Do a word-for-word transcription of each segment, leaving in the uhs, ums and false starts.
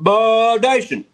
Bud Nation.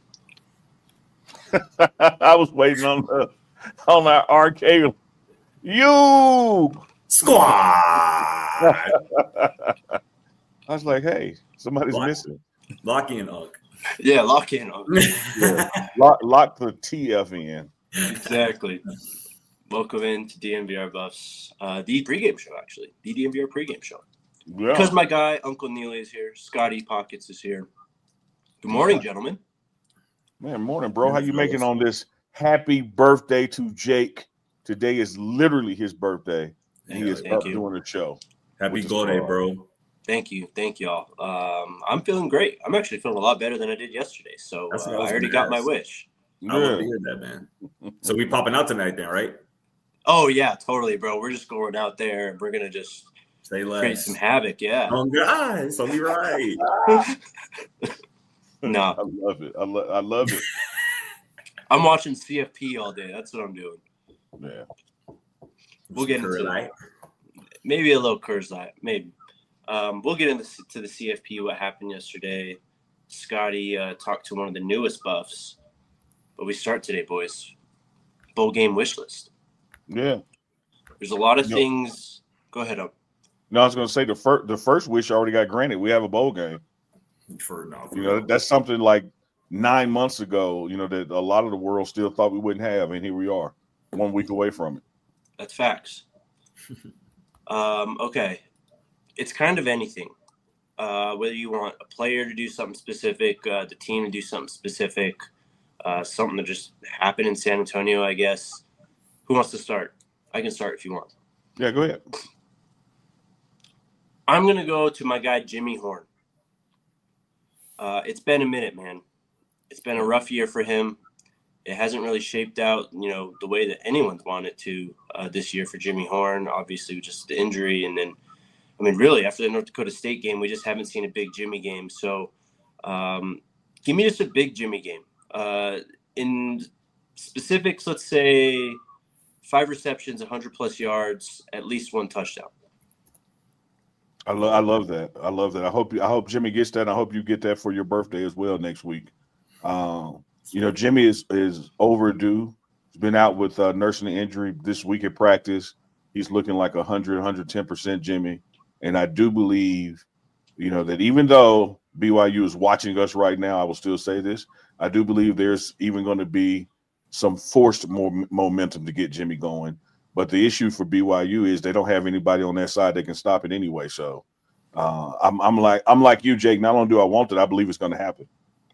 I was waiting on the on our R K. You Squad. I was like, hey, somebody's Lock, missing. lock in, Unk. Yeah, lock in. Yeah. lock, lock the T F in. Exactly. Welcome in to D M V R Buffs, uh, the pregame show, actually. The D M V R pregame show. Yeah. Because my guy, Uncle Neely, is here. Scotty Pockets is here. Good morning, yeah. gentlemen. Man, morning, bro. How you making on this happy birthday to Jake? Today is literally his birthday. And he is Thank up you. doing a show. Happy birthday, bro. Thank you. Thank y'all. Um, I'm feeling great. I'm actually feeling a lot better than I did yesterday. So uh, I, I already got ask. my wish. I yeah. love to hear that, man. So we popping out tonight then, right? Oh, yeah, totally, bro. We're just going out there and we're going to just Say less. create some havoc. Yeah. Oh, God. So be right. No. I love it. I, lo- I love it. I'm watching C F P all day. That's what I'm doing. Yeah. We'll get into it. Maybe a little Coors Light. Maybe. Um, we'll get into to the C F P, what happened yesterday. Scotty uh, talked to one of the newest buffs. But we start today, boys. Bowl game wish list. Yeah. There's a lot of no. things. Go ahead, up. No, I was going to say the first the first wish already got granted. We have a bowl game. For no, for you know, no. that's something like nine months ago, you know, that a lot of the world still thought we wouldn't have. And here we are, one week away from it. That's facts. um, okay. It's kind of anything. Uh, whether you want a player to do something specific, uh, the team to do something specific, uh, something that just happened in San Antonio, I guess. Who wants to start? I can start if you want. Yeah, go ahead. I'm going to go to my guy, Jimmy Horn. Uh, it's been a minute, man. It's been a rough year for him. It hasn't really shaped out, you know, the way that anyone's wanted to uh, this year for Jimmy Horn. Obviously, just the injury. And then, I mean, really, after the North Dakota State game, we just haven't seen a big Jimmy game. So um, give me just a big Jimmy game. Uh, in specifics, let's say five receptions, one hundred plus yards, at least one touchdown. I love, I love that. I love that. I hope you, I hope Jimmy gets that. And I hope you get that for your birthday as well next week. Um, you know, Jimmy is is overdue. He's been out with uh, nursing an injury this week at practice. He's looking like one hundred, one hundred ten percent Jimmy. And I do believe, you know, that even though B Y U is watching us right now, I will still say this. I do believe there's even going to be some forced more momentum to get Jimmy going. But the issue for B Y U is they don't have anybody on their side that can stop it anyway. So uh, I'm, I'm like I'm like you, Jake. Not only do I want it, I believe it's going to happen.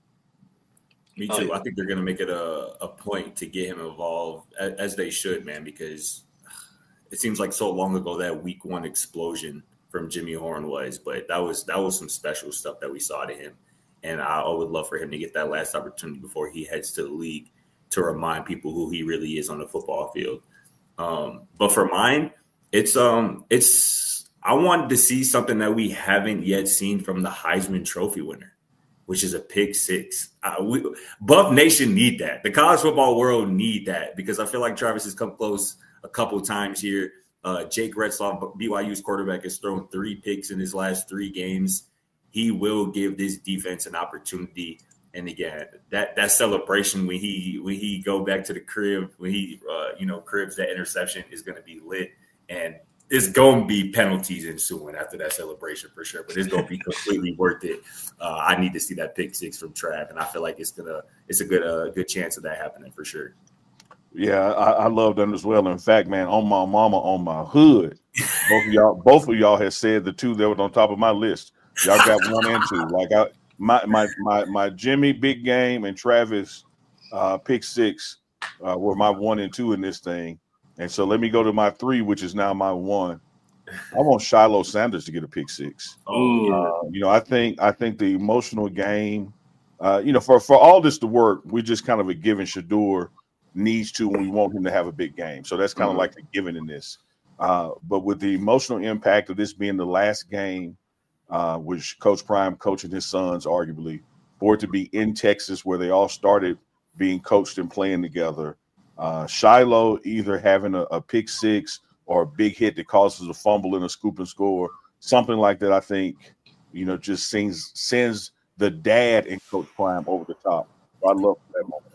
Me too. I think they're going to make it a, a point to get him involved, as, as they should, man, because it seems like so long ago that week one explosion from Jimmy Horn was. But that was that was some special stuff that we saw to him. And I, I would love for him to get that last opportunity before he heads to the league to remind people who he really is on the football field. Um, but for mine, it's um, it's I wanted to see something that we haven't yet seen from the Heisman Trophy winner, which is a pick six. Uh, we, Buff Nation need that. The college football world need that because I feel like Travis has come close a couple of times here. Uh, Jake Retzlaff, B Y U's quarterback, has thrown three picks in his last three games. He will give this defense an opportunity. And again, that that celebration when he when he go back to the crib, when he uh, you know cribs that interception is going to be lit, and it's going to be penalties ensuing after that celebration for sure. But it's going to be completely worth it. Uh, I need to see that pick six from Trav, and I feel like it's gonna it's a good uh, good chance of that happening for sure. Yeah, I, I love them as well. In fact, man, on my mama, on my hood, both of y'all both of y'all have said the two that were on top of my list. Y'all got one and two. Like I. My my my my Jimmy big game and Travis uh, pick six uh, were my one and two in this thing, and so let me go to my three, which is now my one. I want Shiloh Sanders to get a pick six. Oh, uh, you know, I think I think the emotional game, uh, you know, for for all this to work, we just kind of a given. Shador needs to, and we want him to have a big game. So that's kind mm-hmm. of like a given in this. Uh, but with the emotional impact of this being the last game. Uh, which Coach Prime coaching his sons, arguably, for it to be in Texas where they all started being coached and playing together. Uh, Shiloh either having a, a pick six or a big hit that causes a fumble and a scoop and score, something like that, I think, you know, just sends, sends the dad in Coach Prime over the top. So I love that moment.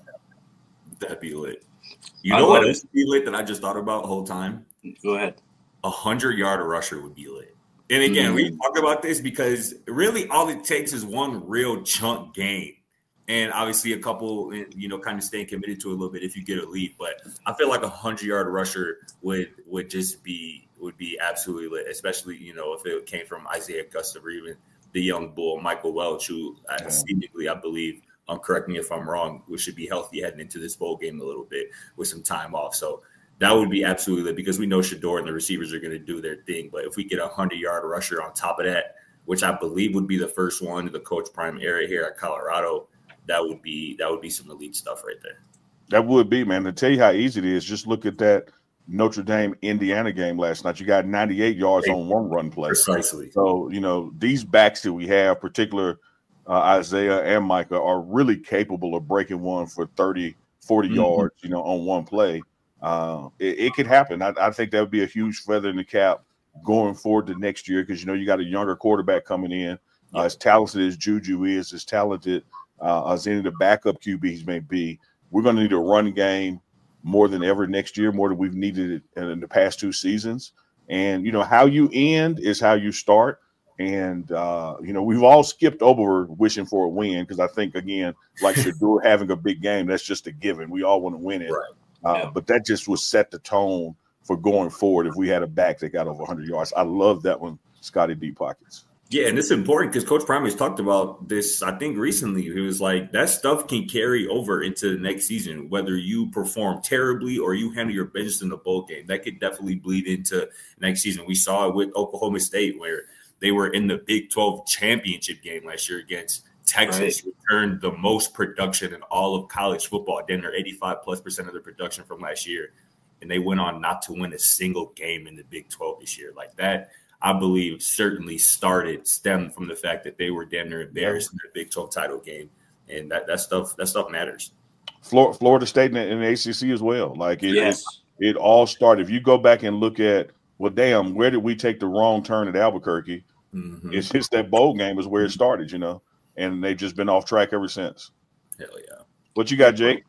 That'd be lit. You I know what love else would be lit that I just thought about the whole time? Go ahead. A hundred-yard rusher would be lit. And again, Mhm. we talk about this because really all it takes is one real chunk game. And obviously a couple, you know, kind of staying committed to it a little bit if you get a lead. But I feel like a hundred-yard rusher would would just be would be absolutely lit, especially, you know, if it came from Isaiah Augusta or even the young bull, Michael Welch, who Yeah. uh, seemingly, I believe, um, correct me if I'm wrong, we should be healthy heading into this bowl game a little bit with some time off. So that would be absolutely lit because we know Shador and the receivers are going to do their thing. But if we get a hundred-yard rusher on top of that, which I believe would be the first one in the Coach Prime era here at Colorado, that would be that would be some elite stuff right there. That would be, man. To tell you how easy it is, just look at that Notre Dame Indiana game last night. You got ninety-eight yards on one run play. Precisely. So, you know, these backs that we have, particular uh, Isaiah and Micah, are really capable of breaking one for thirty, forty Mhm. yards, you know, on one play. Uh, it, it could happen. I, I think that would be a huge feather in the cap going forward to next year because, you know, you got a younger quarterback coming in. Uh, as talented as Juju is, as talented uh, as any of the backup Q Bs may be, we're going to need a run game more than ever next year, more than we've needed it in the past two seasons. And, you know, how you end is how you start. And, uh, you know, we've all skipped over wishing for a win because I think, again, like Shador having a big game, that's just a given. We all want to win it. Right. Uh, Yeah. But that just would set the tone for going forward if we had a back that got over one hundred yards. I love that one, Scotty Deep Pockets. Yeah, and it's important because Coach Prime has talked about this, I think, recently. He was like, that stuff can carry over into the next season, whether you perform terribly or you handle your business in the bowl game. That could definitely bleed into next season. We saw it with Oklahoma State where they were in the Big twelve championship game last year against Texas, Right. returned the most production in all of college football, then their eighty-five plus percent of their production from last year. And they went on not to win a single game in the Big twelve this year. Like that, I believe, certainly started, stemmed from the fact that they were damn near embarrassed in their Big twelve title game. And that, that stuff that stuff matters. Florida, Florida State in the A C C as well. Like it, Yes. it, it all started. If you go back and look at, well, damn, where did we take the wrong turn at Albuquerque? Mm-hmm. It's just that bowl game is where it started, you know, and they've just been off track ever since. Hell yeah. What you got, Jake?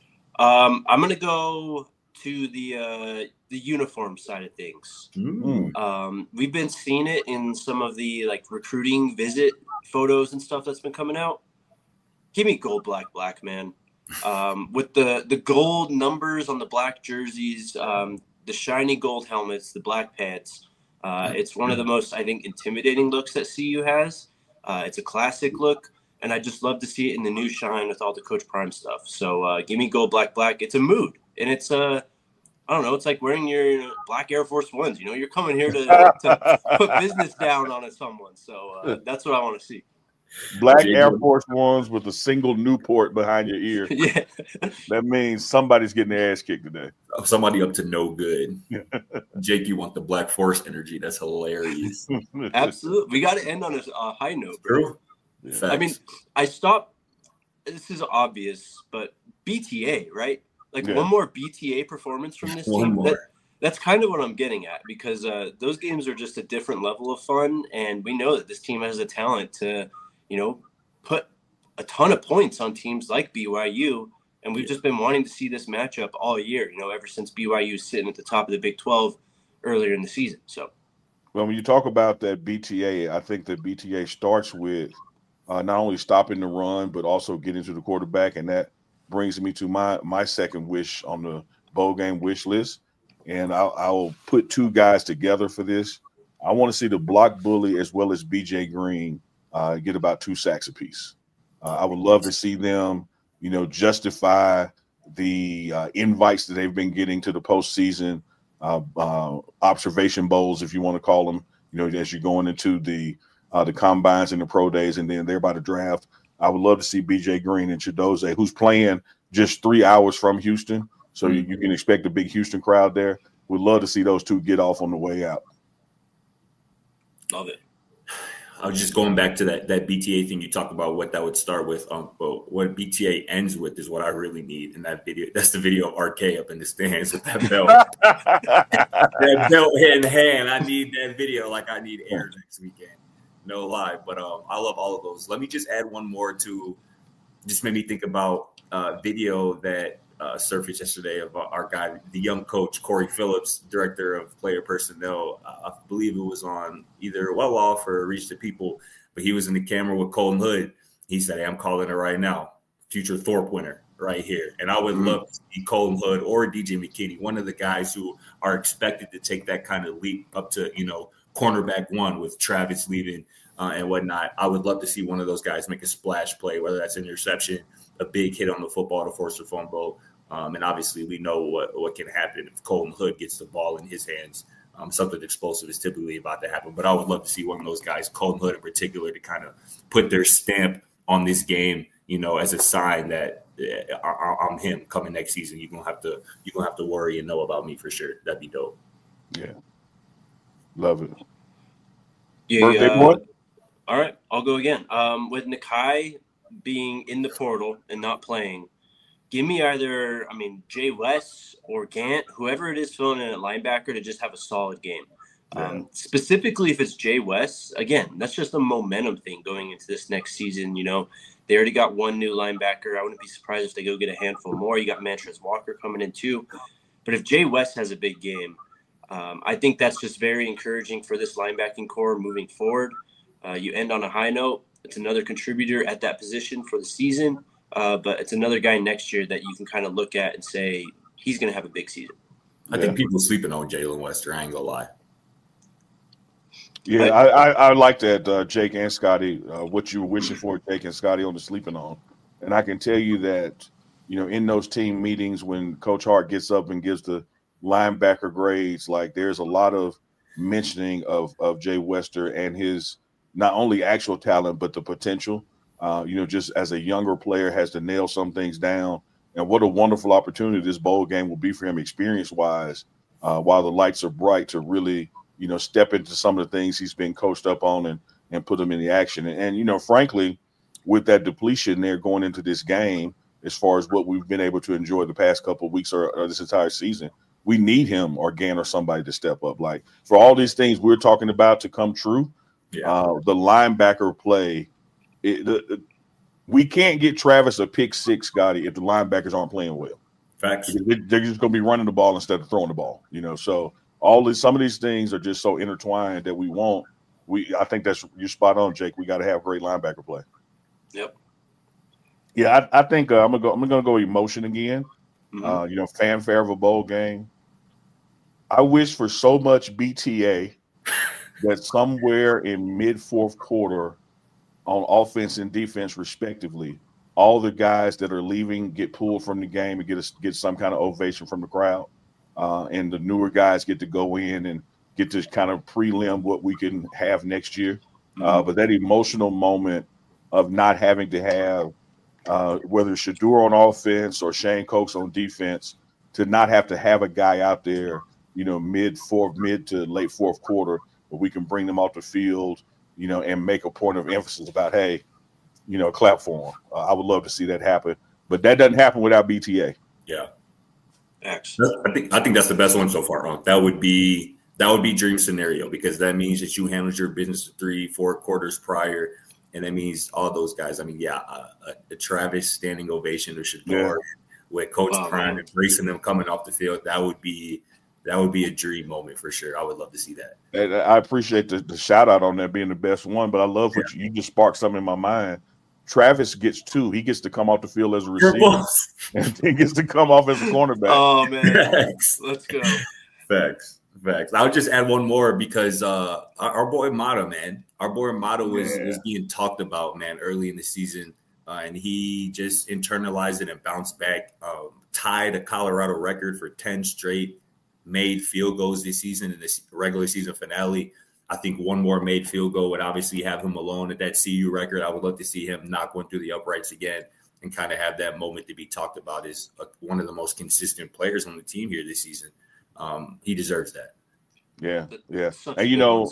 Um, I'm gonna go to the uh, the uniform side of things. Mm. Um, we've been seeing it in some of the like recruiting visit photos and stuff that's been coming out. Give me gold, black, black, man. Um, with the the gold numbers on the black jerseys, um, the shiny gold helmets, the black pants. Uh, it's one of the most, I think, intimidating looks that C U has. Uh, it's a classic look, and I just love to see it in the new shine with all the Coach Prime stuff. So uh, give me gold, black, black. It's a mood, and it's uh, I don't know. It's like wearing your you know, black Air Force Ones. You know, you're coming here to, to put business down on someone. So uh, that's what I want to see. Black Jake, Air what- Force Ones with a single Newport behind your ear. Yeah, That means somebody's getting their ass kicked today. Somebody up to no good. Jake, you want the Black Force energy. That's hilarious. absolutely. We got to end on a, a high note, bro. True. Yeah. Facts. I mean, I stopped. This is obvious, but B T A, right? Like Yeah. one more B T A performance from this One team. more. That, that's kind of what I'm getting at because uh, those games are just a different level of fun, and we know that this team has the talent to, you know, put a ton of points on teams like B Y U. And we've just been wanting to see this matchup all year, you know, ever since B Y U sitting at the top of the Big twelve earlier in the season. So, Well, when you talk about that B T A, I think that B T A starts with uh, not only stopping the run, but also getting to the quarterback. And that brings me to my my second wish on the bowl game wish list. And I'll, I'll put two guys together for this. I want to see the block bully as well as B J Green uh, get about two sacks apiece. Uh, I would love to see them, you know, justify the uh, invites that they've been getting to the postseason, uh, uh, observation bowls, if you want to call them, you know, as you're going into the uh, the combines and the pro days, and then they're about to draft. I would love to see B J Green and Chidoze, who's playing just three hours from Houston, so you, you can expect a big Houston crowd there. We'd love to see those two get off on the way out. love it. I was just going back to that that B T A thing you talked about, what that would start with. Um, but what B T A ends with is what I really need in that video. That's the video of R K up in the stands with that belt. That belt in hand. I need that video like I need air next weekend. no lie. But um, I love all of those. Let me just add one more to just made me think about uh, video that uh, surfaced yesterday of our guy, the young coach, Corey Phillips, director of player personnel. Uh, I believe it was on either Well Off or Reach the People, but he was in the camera with Colton Hood. He said, hey, I'm calling it right now. Future Thorpe winner right here. And I would mm-hmm. love to see Colton Hood or D J McKinney, one of the guys who are expected to take that kind of leap up to, you know, cornerback one with Travis leaving uh, and whatnot. I would love to see one of those guys make a splash play, whether that's an interception, a big hit on the football to force a fumble. Um, and obviously we know what, what can happen if Colton Hood gets the ball in his hands. Um, something explosive is typically about to happen. But I would love to see one of those guys, Colton Hood in particular, to kind of put their stamp on this game, you know, as a sign that uh, I'm him coming next season. You're gonna have to you're gonna have to worry and know about me for sure. That'd be dope. Yeah. Love it. Yeah, Birthday uh, boy? All right, I'll go again. Um, with Nakai being in the portal and not playing, give me either, I mean, Jay West or Gant, whoever it is filling in at linebacker to just have a solid game. Yeah. Um, specifically, if it's Jay West, again, that's just a momentum thing going into this next season. You know, they already got one new linebacker. I wouldn't be surprised if they go get a handful more. You got Mantrez Walker coming in too. But if Jay West has a big game, um, I think that's just very encouraging for this linebacking core moving forward. Uh, you end on a high note. It's another contributor at that position for the season, uh, but it's another guy next year that you can kind of look at and say he's going to have a big season. I yeah. think people sleeping on Jalen Wester. I ain't gonna lie. Yeah, I, I, I like that, uh, Jake and Scotty, uh, what you were wishing for, Jake and Scotty, on the sleeping on. And I can tell you that, you know, in those team meetings when Coach Hart gets up and gives the linebacker grades, like there's a lot of mentioning of, of Jay Wester and his not only actual talent, but the potential. Uh, you know, just as a younger player has to nail some things down. And what a wonderful opportunity this bowl game will be for him experience-wise uh, while the lights are bright to really – you know, step into some of the things he's been coached up on and, and put them in the action. And, and, you know, frankly, with that depletion there going into this game, as far as what we've been able to enjoy the past couple of weeks or, or this entire season, we need him or Gann or somebody to step up. Like, for all these things we're talking about to come true, yeah. uh, the linebacker play, it, the, the, we can't get Travis a pick six, Scotty, if the linebackers aren't playing well. Facts. They're, they're just going to be running the ball instead of throwing the ball, you know, so – all these, some of these things are just so intertwined that we won't. We, I think that's you're spot on, Jake. We got to have great linebacker play. Yep. Yeah, I, I think uh, I'm gonna go. I'm gonna go emotion again. Mm-hmm. Uh, you know, fanfare of a bowl game. I wish for so much B T A that somewhere in mid fourth quarter, on offense and defense respectively, all the guys that are leaving get pulled from the game and get a, get some kind of ovation from the crowd. Uh, and the newer guys get to go in and get to kind of prelim what we can have next year. Mm-hmm. Uh, but that emotional moment of not having to have, uh, whether it's Shedeur on offense or Shane Cokes on defense, to not have to have a guy out there, you know, mid fourth, mid to late fourth quarter, where we can bring them off the field, you know, and make a point of emphasis about, hey, you know, clap for them. Uh, I would love to see that happen. But that doesn't happen without B T A. Yeah. I think I think that's the best one so far. Huh? That would be that would be dream scenario, because that means that you handled your business three, four quarters prior, and that means all those guys. I mean, yeah, uh, a, a Travis standing ovation to Shedeur, yeah. with Coach wow, Prime embracing them coming off the field. That would be that would be a dream moment for sure. I would love to see that. And I appreciate the, the shout out on that being the best one, but I love what yeah. you, you just sparked something in my mind. Travis gets two. He gets to come off the field as a receiver, and he gets to come off as a cornerback. Oh, man. Facts. Let's go. Facts. Facts. I would just add one more because uh, our, our boy Mata, man, our boy Mata was, yeah. was being talked about, man, early in the season, uh, and he just internalized it and bounced back, um, tied a Colorado record for ten straight made field goals this season in the regular season finale. I think one more made field goal would obviously have him alone at that C U record. I would love to see him knock one through the uprights again and kind of have that moment to be talked about as a, one of the most consistent players on the team here this season. Um, he deserves that. Yeah, yeah. And, you know,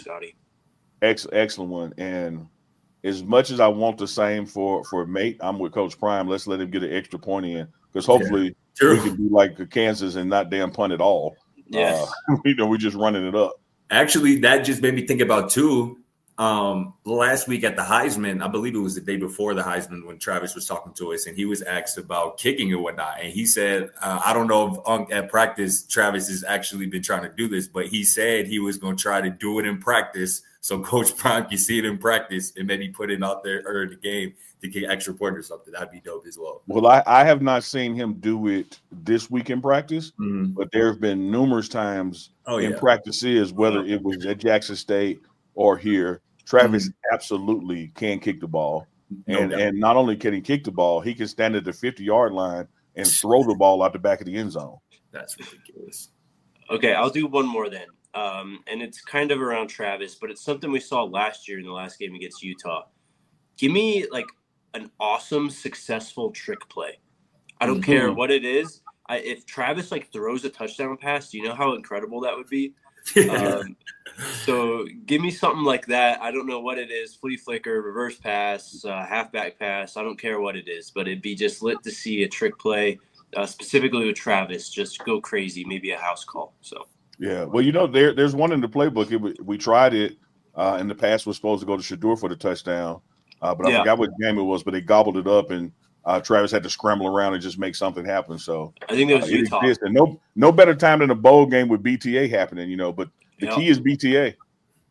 ex- excellent one. And as much as I want the same for, for Mate, I'm with Coach Prime. Let's let him get an extra point in, because hopefully yeah, we can be like Kansas and not damn punt at all. Yeah. Uh, you know, we're just running it up. Actually, that just made me think about, too, Um, last week at the Heisman, I believe it was the day before the Heisman when Travis was talking to us, and he was asked about kicking and whatnot. And he said, uh, I don't know if um, at practice Travis has actually been trying to do this, but he said he was going to try to do it in practice so Coach Prime can see it in practice and maybe put it out there or in the game to get extra point or something. That'd be dope as well. Well, I, I have not seen him do it this week in practice, Mm-hmm. but there have been numerous times oh, in yeah. practices, whether it was at Jackson State or here, Travis mm-hmm. absolutely can kick the ball. No and doubt. And not only can he kick the ball, he can stand at the fifty-yard line and throw the ball out the back of the end zone. That's ridiculous. Okay, I'll do one more then. Um, and it's kind of around Travis, but it's something we saw last year in the last game against Utah. Give me, like, an awesome, successful trick play. I don't mm-hmm. care what it is. I, if Travis, like, throws a touchdown pass, do you know how incredible that would be? um, so give me something like that. I don't know what it is, flea flicker, reverse pass, uh, halfback pass. I don't care what it is, but it'd be just lit to see a trick play, uh, specifically with Travis, just go crazy, maybe a house call. So yeah, well, you know, there there's one in the playbook. It, we tried it uh, in the past. Was supposed to go to Shedeur for the touchdown, uh, but I yeah. forgot what game it was. But they gobbled it up, and uh, Travis had to scramble around and just make something happen. So I think it was uh, Utah. It and no no better time than a bowl game with B T A happening, you know. But the yep. key is B T A.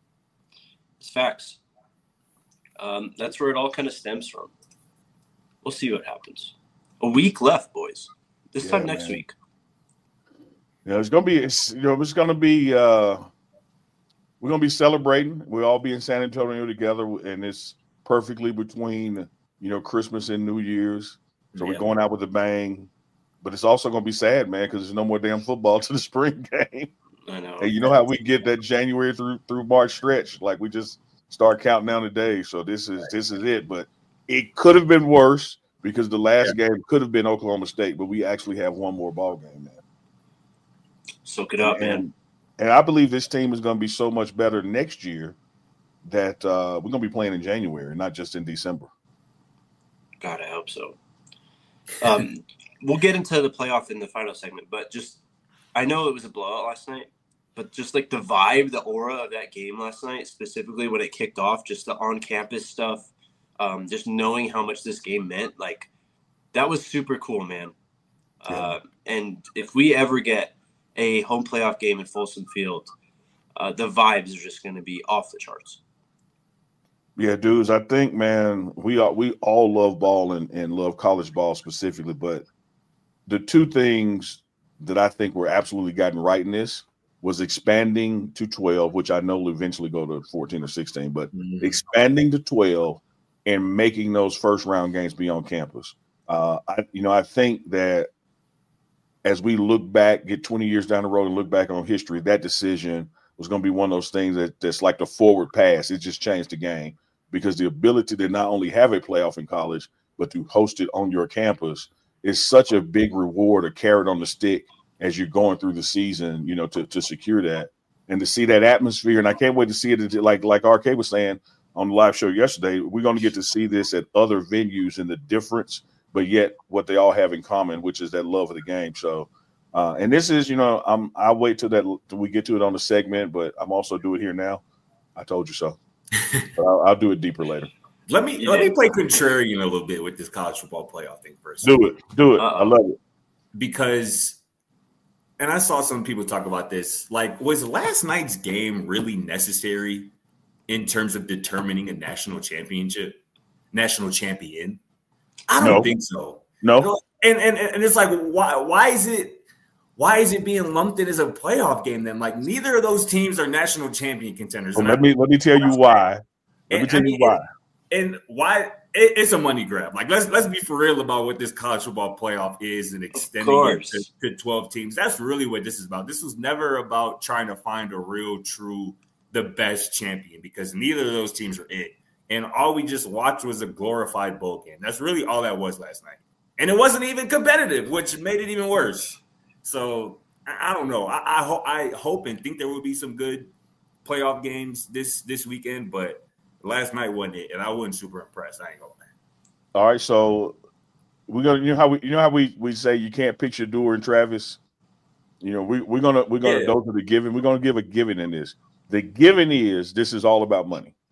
It's facts. Um, that's where it all kind of stems from. We'll see what happens. A week left, boys. This yeah, time next man. week. Yeah, it's gonna be. It's, you know, it's gonna be. Uh, we're gonna be celebrating. We'll all be in San Antonio together, and it's perfectly between you know Christmas and New Year's. So yeah. we're going out with a bang. But it's also gonna be sad, man, because there's no more damn football to the spring game. I know. And you know how we get that January through through March stretch, like we just start counting down the days. So this is this is it. But it could have been worse because the last yeah. game could have been Oklahoma State, but we actually have one more ball game, man. Soak it up, and, man. And I believe this team is going to be so much better next year that uh, we're going to be playing in January, not just in December. God, I hope so. Um, we'll get into the playoff in the final segment, but just I know it was a blowout last night, but just like the vibe, the aura of that game last night, specifically when it kicked off, just the on-campus stuff, um, just knowing how much this game meant, like that was super cool, man. Yeah. Uh, and if we ever get a home playoff game in Folsom Field, uh, the vibes are just going to be off the charts. Yeah, dudes, I think, man, we all, we all love ball and, and love college ball specifically, but the two things that I think were absolutely gotten right in this was expanding to twelve, which I know will eventually go to fourteen or sixteen, but mm-hmm. expanding to twelve and making those first round games be on campus. Uh, I, you know, I think that as we look back, get twenty years down the road and look back on history, that decision was going to be one of those things that, that's like the forward pass. It just changed the game because the ability to not only have a playoff in college, but to host it on your campus is such a big reward, a carrot on the stick as you're going through the season, you know, to, to secure that and to see that atmosphere. And I can't wait to see it. Like, like R K was saying on the live show yesterday, we're going to get to see this at other venues and the difference, but yet what they all have in common, which is that love of the game. So, uh, and this is, you know, I'm, I'll wait till that, till we get to it on the segment, but I'm also do it here now. I told you so. But I'll, I'll do it deeper later. Let me, yeah. let me play contrarian a little bit with this college football playoff thing first. Do it. Do it. Uh-oh. I love it. Because, and I saw some people talk about this, like, was last night's game really necessary in terms of determining a national championship, national champion? I don't no. think so. No. You know, and, and and it's like, why why is it why is it being lumped in as a playoff game then? Like, neither of those teams are national champion contenders. Well, let me let me tell you why. Let and, me tell I mean, you why. And why it, it's a money grab. Like, let's let's be for real about what this college football playoff is and extending it to, to twelve teams. That's really what this is about. This was never about trying to find a real, true, the best champion, because neither of those teams are it. And all we just watched was a glorified bowl game. That's really all that was last night. And it wasn't even competitive, which made it even worse. So I, I don't know. I, I, ho- I hope and think there will be some good playoff games this this weekend, but last night wasn't it, and I wasn't super impressed. I ain't gonna lie. All right, so we're gonna you know how we you know how we, we say you can't picture Shedeur and Travis. You know, we we're gonna we're gonna yeah. those are the given. We're gonna give a given in this. The given is this is all about money.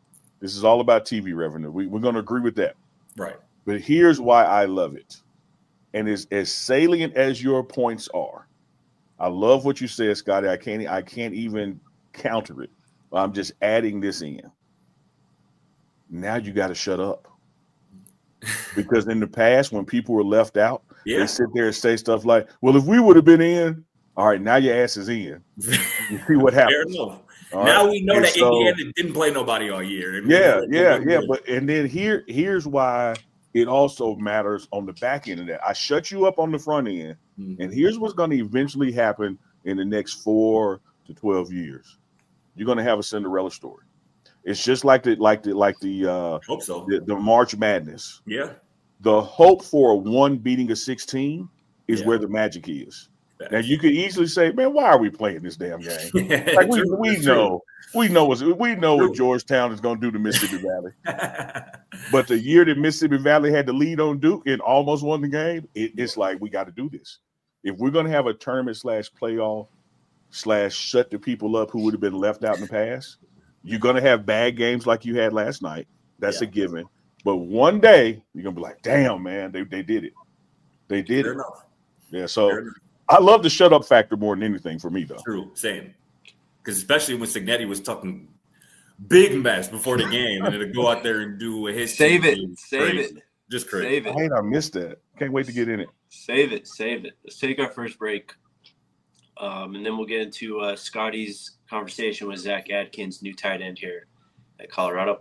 This is all about T V revenue. We, we're going to agree with that. Right. But here's why I love it. And as, as salient as your points are, I love what you said, Scotty. I can't I can't even counter it. I'm just adding this in. Now you got to shut up. Because in the past, when people were left out, yeah. they sit there and say stuff like, well, if we would have been in, all right, now your ass is in. You see what happens. Now right? we know and that so, Indiana didn't play nobody all year. Yeah, yeah, yeah. But and then here, here's why it also matters on the back end of that. I shut you up on the front end, mm-hmm. and here's what's going to eventually happen in the next four to twelve years. You're going to have a Cinderella story. It's just like the like the like the uh hope so. the, the March Madness. Yeah. The hope for a one beating a sixteen is yeah. where the magic is. Now you could easily say, man, why are we playing this damn game? Like we, we know, we know what we know what Georgetown is going to do to Mississippi Valley. But the year that Mississippi Valley had the lead on Duke and almost won the game, it, it's like we got to do this. If we're going to have a tournament slash playoff slash shut the people up who would have been left out in the past, you're going to have bad games like you had last night. That's yeah. a given. But one day you're going to be like, damn, man, they they did it. They did Fair it. Enough. Yeah. So. I love the shut up factor more than anything for me, though. True, same. Because especially when Cignetti was talking big mess before the game, and then to go out there and do his save it, save crazy. it, just crazy. Save it. I hate I missed that. Can't wait to get in it. Save it, save it. Let's take our first break, um, and then we'll get into uh, Scotty's conversation with Zach Adkins, new tight end here at Colorado.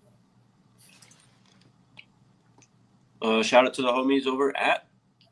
Uh, shout out to the homies over at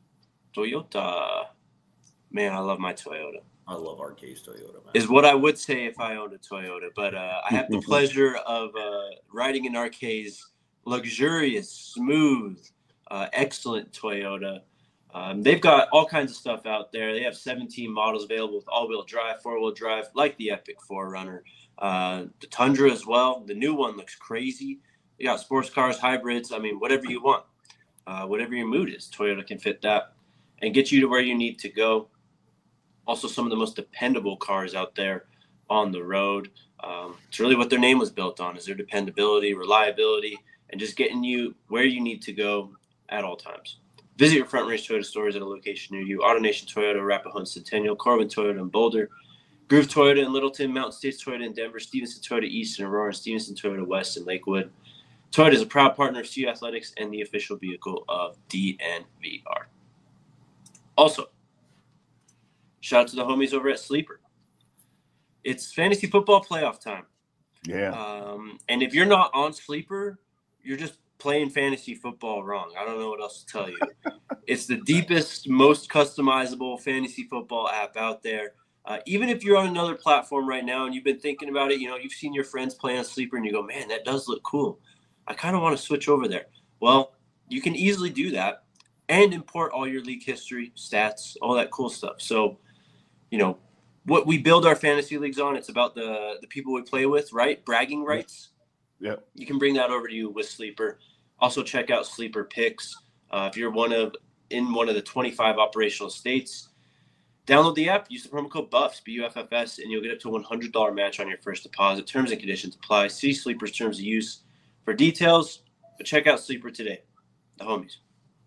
Toyota. Man, I love my Toyota. I love Arcade's Toyota, man. Is what I would say if I owned a Toyota. But uh, I have the pleasure of uh, riding in Arcade's luxurious, smooth, uh, excellent Toyota. Um, they've got all kinds of stuff out there. They have seventeen models available with all-wheel drive, four-wheel drive, like the Epic four runner. Uh, the Tundra as well. The new one looks crazy. You got sports cars, hybrids. I mean, whatever you want. Uh, whatever your mood is, Toyota can fit that and get you to where you need to go. Also, some of the most dependable cars out there on the road. Um, it's really what their name was built on, is their dependability, reliability, and just getting you where you need to go at all times. Visit your Front Range Toyota stores at a location near you. AutoNation Toyota, Arapahoe, Centennial, Corbin Toyota in Boulder, Groove Toyota in Littleton, Mountain States Toyota in Denver, Stevenson Toyota East in Aurora, and Stevenson Toyota West in Lakewood. Toyota is a proud partner of C U Athletics and the official vehicle of D N V R. Also, shout out to the homies over at Sleeper. It's fantasy football playoff time. Yeah. Um, and if you're not on Sleeper, you're just playing fantasy football wrong. I don't know what else to tell you. It's the deepest, most customizable fantasy football app out there. Uh, even if you're on another platform right now and you've been thinking about it, you know, you've seen your friends play on Sleeper and you go, man, that does look cool. I kind of want to switch over there. Well, you can easily do that and import all your league history, stats, all that cool stuff. So, you know, what we build our fantasy leagues on, it's about the the people we play with, right? Bragging rights. Yeah. You can bring that over to you with Sleeper. Also check out Sleeper Picks. Uh, if you're one of in one of the twenty-five operational states, download the app, use the promo code BUFFS, B U F F S, and you'll get up to a one hundred dollars match on your first deposit. Terms and conditions apply. See Sleeper's terms of use for details, but check out Sleeper today. The homies.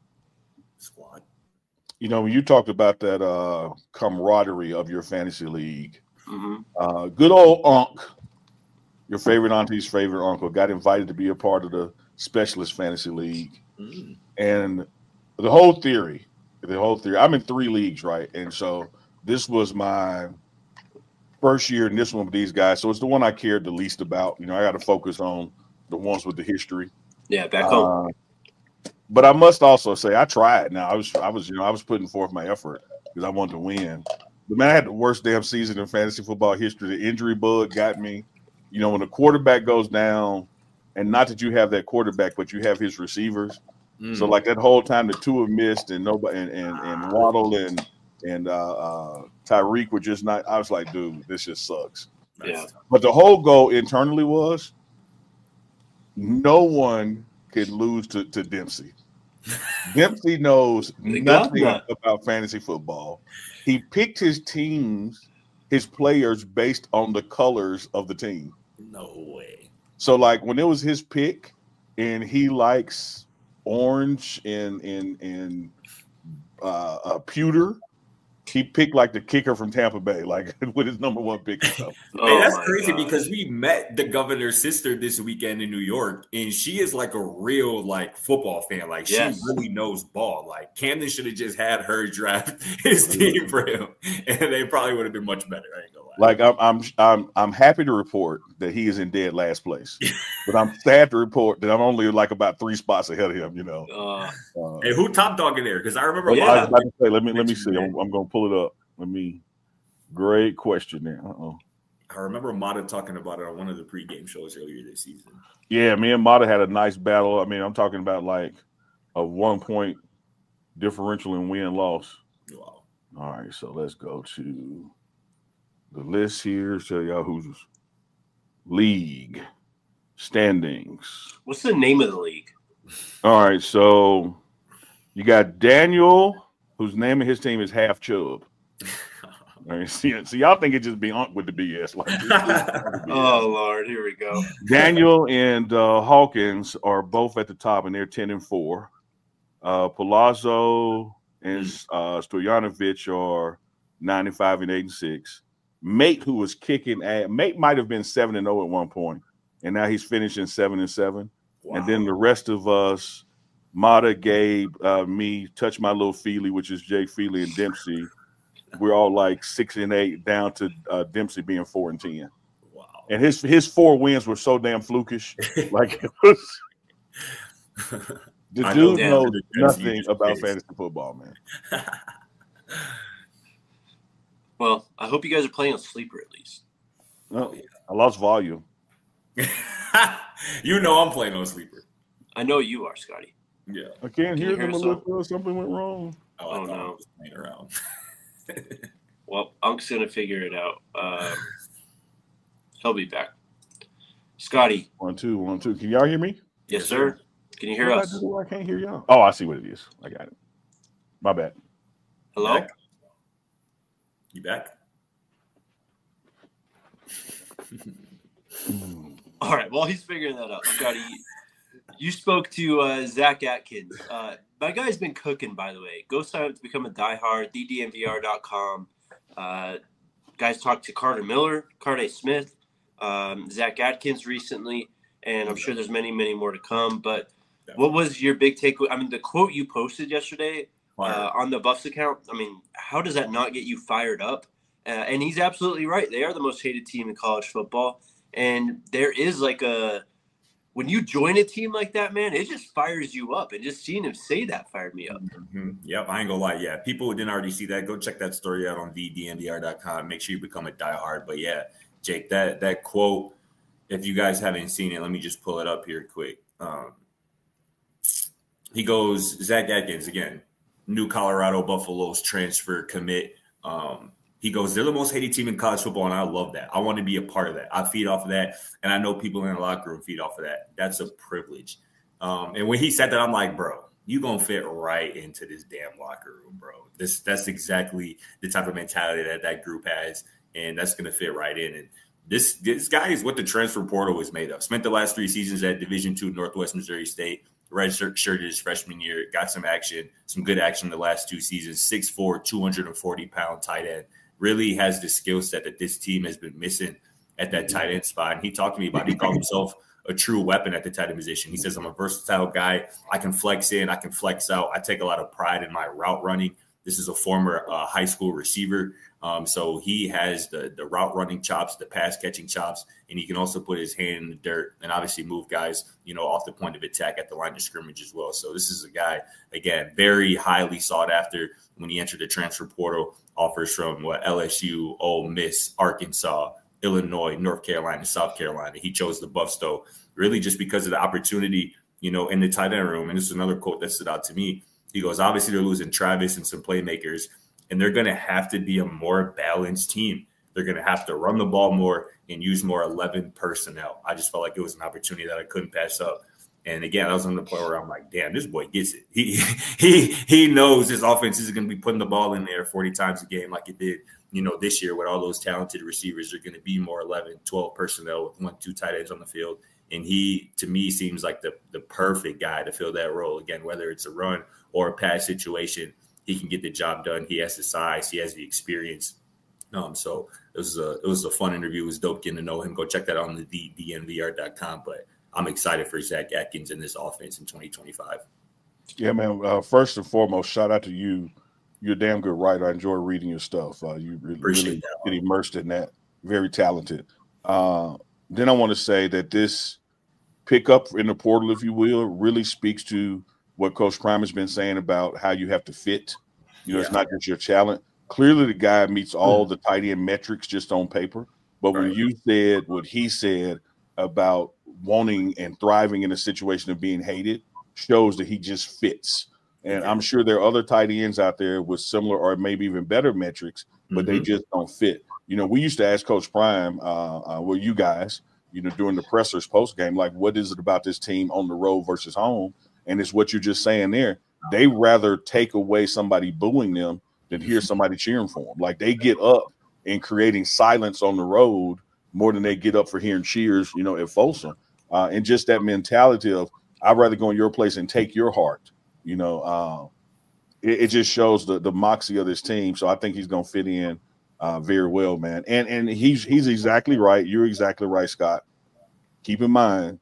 Squad. You know, when you talked about that uh, camaraderie of your fantasy league, mm-hmm. uh, good old Unc, your favorite auntie's favorite uncle, got invited to be a part of the Specialist Fantasy League. Mm. And the whole theory, the whole theory, I'm in three leagues, right? And so this was my first year in this one with these guys. So it's the one I cared the least about. You know, I got to focus on the ones with the history. Yeah, back home. Uh, But I must also say I tried. Now I was, I was, you know, I was putting forth my effort because I wanted to win. But man, I had the worst damn season in fantasy football history. The injury bug got me. You know, when the quarterback goes down, and not that you have that quarterback, but you have his receivers. Mm. So like that whole time the two have missed, and nobody, and and, and Waddle and and uh, uh, Tyreek were just not. I was like, dude, this just sucks. Yeah. But the whole goal internally was no one could lose to, to Dempsey. Dempsey knows nothing about fantasy football. He picked his teams, his players based on the colors of the team. No way. So like when it was his pick, and he likes orange and and and uh, uh pewter. He picked like the kicker from Tampa Bay, like with his number one pick. And stuff. Oh, hey, that's my crazy gosh. because we met the governor's sister this weekend in New York, and she is like a real like football fan. Like Yes. she really knows ball. Like Camden should have just had her draft his team for him, and they probably would have been much better. I ain't gonna lie. Like I'm, I'm, I'm, I'm happy to report that he is in dead last place, but I'm sad to report that I'm only like about three spots ahead of him. You know. Uh, Uh, Hey, who top dog in there? Because I remember. I was Yeah. about to say, let me let me see. Man. I'm, I'm gonna pull it up. Let me. Great question there. Uh-oh. I remember Mata talking about it on one of the pregame shows earlier this season. Yeah, me and Mata had a nice battle. I mean, I'm talking about like a one point differential in win loss. Wow. All right, so let's go to the list here. Show y'all who's league standings. what's the name of the league? All right, so you got Daniel, whose name of his team is Half Chub. All right, see, so y'all think it just be on with the B S. Like, this- this- Oh Lord, here we go. Daniel and uh, Hawkins are both at the top, and they're ten and four. Uh, Palazzo and uh, Stojanovic are ninety-five and eight and six. Mate, who was kicking at Mate, might have been seven and zero at one point, and now he's finishing seven and seven. Wow. And then the rest of us, Mata, Gabe, uh, me, Touch My Little Feely, which is Jake Feely and Dempsey. We're all like six and eight, down to uh, Dempsey being four and ten. Wow. And his his four wins were so damn flukish. Like it was, the I know dude damn, knows the nothing Dempsey about is- fantasy football, man. Well, I hope you guys are playing a sleeper at least. No, I lost volume. You know I'm playing on sleeper. I know you are, Scotty. Yeah. I can't Can hear you them, hear us Melissa. Something went wrong. Oh, I Oh, thought I no. was playing around. Well, Unk's gonna figure it out. Um, he'll be back. Scotty, One, two, one, two. Can y'all hear me? yes, Yes, sir. sir. Can you hear What us? did I do? I can't hear y'all. Oh, I see what it is. I got it. My bad. Hello. Back? You back? All right. While he's figuring that out, Scotty, you spoke to uh, Zach Atkins. Uh, my guy's been cooking, by the way. Go sign up to become a diehard. D D M V R dot com. Uh, guys talked to Carter Miller, Carter Smith, um, Zach Atkins recently, and I'm sure there's many, many more to come. But what was your big takeaway? I mean, the quote you posted yesterday uh, on the Buffs account. I mean, how does that not get you fired up? Uh, and he's absolutely right. They are the most hated team in college football. And there is like a – when you join a team like that, man, it just fires you up. And just seeing him say that fired me up. Mm-hmm. Yep, I ain't gonna lie. Yeah, people who didn't already see that, go check that story out on D D M V R dot com. Make sure you become a diehard. But yeah, Jake, that that quote, if you guys haven't seen it, let me just pull it up here quick. Um, he goes, Zach Atkins, again, new Colorado Buffaloes transfer commit. Um, he goes, they're the most hated team in college football, and I love that. I want to be a part of that. I feed off of that, and I know people in the locker room feed off of that. That's a privilege. Um, and when he said that, I'm like, bro, you going to fit right into this damn locker room, bro. This That's exactly the type of mentality that that group has, and that's going to fit right in. And this this guy is what the transfer portal is made of. Spent the last three seasons at Division two Northwest Missouri State. Red shirt shirted his freshman year. Got some action, some good action the last two seasons. six foot four, two hundred forty pound tight end. Really has the skill set that this team has been missing at that tight end spot. And he talked to me about it. He called himself a true weapon at the tight end position. He says, I'm a versatile guy. I can flex in. I can flex out. I take a lot of pride in my route running. This is a former uh, high school receiver. Um, so he has the, the route running chops, the pass catching chops, and he can also put his hand in the dirt and obviously move guys, you know, off the point of attack at the line of scrimmage as well. So this is a guy, again, very highly sought after when he entered the transfer portal. Offers from what L S U, Ole Miss, Arkansas, Illinois, North Carolina, South Carolina. He chose the Buffs, though, really just because of the opportunity, you know, in the tight end room. And this is another quote that stood out to me. He goes, obviously they're losing Travis and some playmakers, and they're going to have to be a more balanced team. They're going to have to run the ball more and use more eleven personnel. I just felt like it was an opportunity that I couldn't pass up. And again, I was on the point where I'm like, damn, this boy gets it. He he he knows his offense is going to be putting the ball in there forty times a game like it did, you know, this year with all those talented receivers. They're going to be more eleven, twelve personnel with one, two tight ends on the field. And he, to me, seems like the, the perfect guy to fill that role. Again, whether it's a run or a pass situation, he can get the job done. He has the size. He has the experience. Um, so it was a it was a fun interview. It was dope getting to know him. Go check that out on the D N V R dot com. But I'm excited for Zach Atkins in this offense in twenty twenty-five. Yeah, man. Uh, first and foremost, shout out to you. You're a damn good writer. I enjoy reading your stuff. Uh, you really, really get immersed in that. Very talented. Uh, then I want to say that this pickup in the portal, if you will, really speaks to what Coach Prime has been saying about how you have to fit. You know, yeah. It's not just your talent. Clearly, the guy meets all mm. the tight end metrics just on paper. But right. when you said what he said about wanting and thriving in a situation of being hated, shows that he just fits. And I'm sure there are other tight ends out there with similar or maybe even better metrics, but mm-hmm. they just don't fit. You know, we used to ask Coach Prime, uh, uh, well, you guys, you know, during the pressers post game, like, what is it about this team on the road versus home? And it's what you're just saying there. They rather take away somebody booing them than hear somebody cheering for them. Like, they get up and creating silence on the road more than they get up for hearing cheers, you know, at Folsom. Uh, and just that mentality of, I'd rather go in your place and take your heart. You know, uh, it, it just shows the the moxie of this team. So I think he's going to fit in uh, very well, man. And and he's he's exactly right. You're exactly right, Scott. Keep in mind,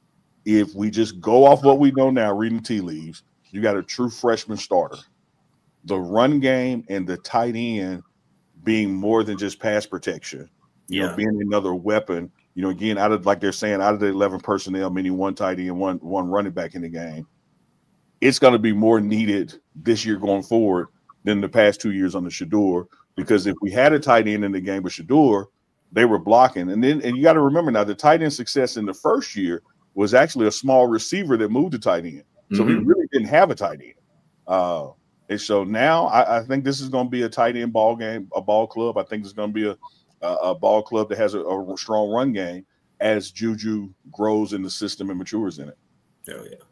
if we just go off what we know now, reading tea leaves, you got a true freshman starter. The run game and the tight end being more than just pass protection, you yeah. know, being another weapon. You know, again, out of like they're saying, out of the eleven personnel, meaning one tight end, one one running back in the game, it's going to be more needed this year going forward than the past two years on the Shedeur. Because if we had a tight end in the game with Shedeur, they were blocking. And then, and you got to remember now, the tight end success in the first year was actually a small receiver that moved to tight end. So mm-hmm. we really didn't have a tight end. Uh, and so now I, I think this is going to be a tight end ball game, a ball club. I think it's going to be a a ball club that has a, a strong run game as Juju grows in the system and matures in it. Oh, yeah.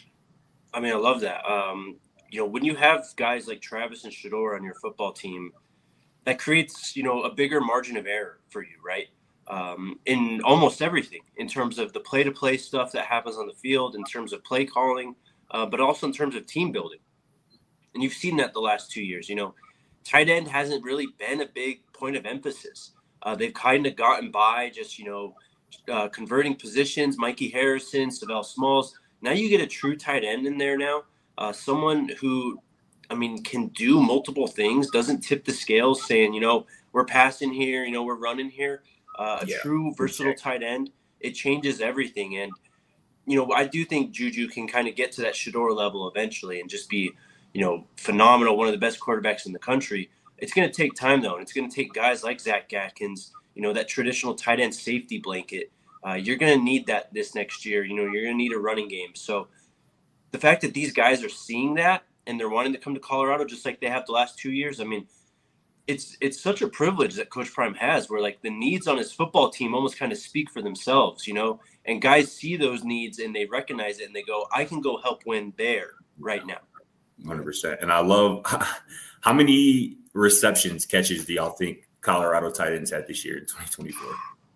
I mean, I love that. Um, you know, when you have guys like Travis and Shedeur on your football team, that creates, you know, a bigger margin of error for you, right? Um, in almost everything, in terms of the play-to-play stuff that happens on the field, in terms of play calling, uh, but also in terms of team building. And you've seen that the last two years. You know, tight end hasn't really been a big point of emphasis. Uh, they've kind of gotten by just, you know, uh, converting positions, Mikey Harrison, Savell Smalls. Now you get a true tight end in there now, uh, someone who, I mean, can do multiple things, doesn't tip the scales saying, you know, we're passing here, you know, we're running here. Uh, a yeah, true versatile exactly. tight end, it changes everything. And, you know, I do think Juju can kind of get to that Shedeur level eventually and just be, you know, phenomenal, one of the best quarterbacks in the country. It's going to take time, though, and it's going to take guys like Zach Atkins, you know, that traditional tight end safety blanket. Uh, you're going to need that this next year. You know, you're going to need a running game. So the fact that these guys are seeing that and they're wanting to come to Colorado just like they have the last two years, I mean, it's it's such a privilege that Coach Prime has where, like, the needs on his football team almost kind of speak for themselves, you know, and guys see those needs and they recognize it and they go, I can go help win there right now. one hundred percent. And I love – how many – receptions, catches do y'all think Colorado tight ends had this year in twenty twenty-four?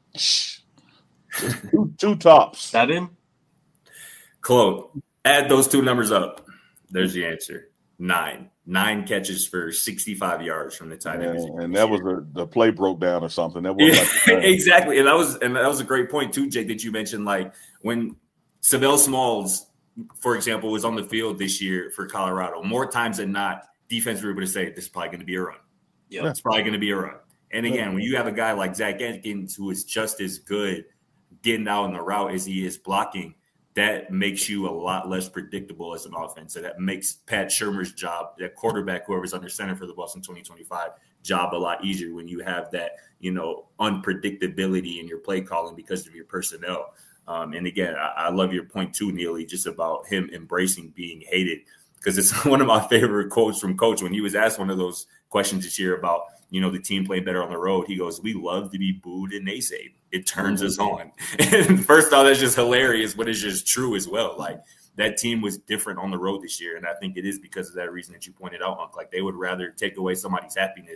two, two tops. Seven? Close. Add those two numbers up. There's the answer. Nine. Nine catches for sixty-five yards from the tight end. Yeah, and that was a, the play broke down or something. That was yeah, like exactly. And that was and that was a great point too, Jake, that you mentioned. Like when Savell Smalls, for example, was on the field this year for Colorado, more times than not, defense were able to say, this is probably going to be a run. Yeah, it's probably going to be a run. And again, when you have a guy like Zach Atkins who is just as good getting out on the route as he is blocking, that makes you a lot less predictable as an offense. So that makes Pat Shurmur's job, that quarterback, whoever's under center for the Bucs in twenty twenty-five, job a lot easier when you have that, you know, unpredictability in your play calling because of your personnel. Um, and again, I, I love your point too, Neely, just about him embracing being hated. Because it's one of my favorite quotes from Coach when he was asked one of those questions this year about, you know, the team playing better on the road. He goes, we love to be booed and naysayed. It turns us on. And first off, that's just hilarious, but it's just true as well. Like, that team was different on the road this year. And I think it is because of that reason that you pointed out, Unc. Like, they would rather take away somebody's happiness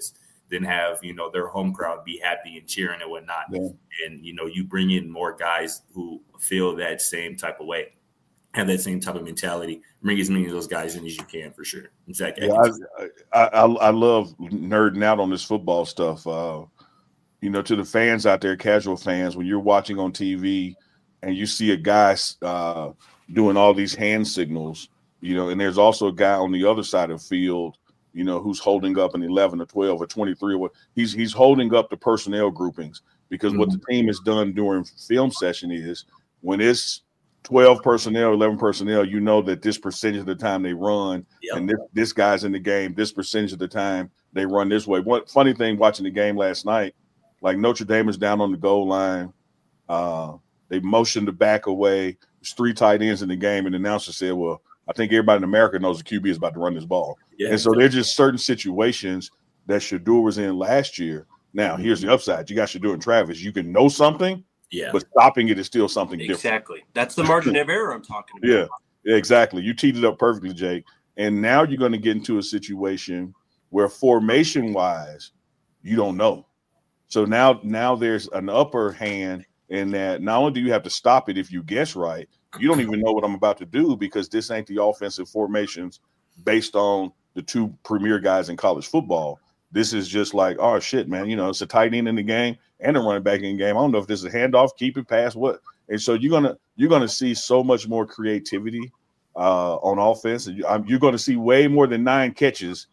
then have, you know, their home crowd be happy and cheering and whatnot. Yeah. And, you know, you bring in more guys who feel that same type of way, have that same type of mentality. Bring as many of those guys in as you can, for sure. Exactly. Yeah, I, I, I, I love nerding out on this football stuff. Uh, you know, to the fans out there, casual fans, when you're watching on T V and you see a guy uh, doing all these hand signals, you know, and there's also a guy on the other side of the field, you know, who's holding up an eleven or twelve or twenty-three or what he's he's holding up the personnel groupings, because mm-hmm. what the team has done during film session is when it's twelve personnel, eleven personnel, you know that this percentage of the time they run, yep. and this, this guy's in the game, this percentage of the time they run this way. One funny thing watching the game last night, like Notre Dame is down on the goal line. Uh, they motioned the back away. There's three tight ends in the game, and the announcer said, well, I think everybody in America knows the Q B is about to run this ball. Yeah, and so there's just certain situations that Shedeur was in last year. Now, here's the upside. You got Shedeur and Travis. You can know something, yeah, but stopping it is still something exactly. different. Exactly. That's the margin of error I'm talking about. Yeah, exactly. You teed it up perfectly, Jake. And now you're going to get into a situation where formation-wise, you don't know. So now, now there's an upper hand in that not only do you have to stop it if you guess right, you don't even know what I'm about to do because this ain't the offensive formations based on the two premier guys in college football. This is just like, oh, shit, man, you know, it's a tight end in the game and a running back in the game. I don't know if this is a handoff, keep it, pass, what. And so you're going to you're gonna see so much more creativity uh, on offense. And you're going to see way more than nine catches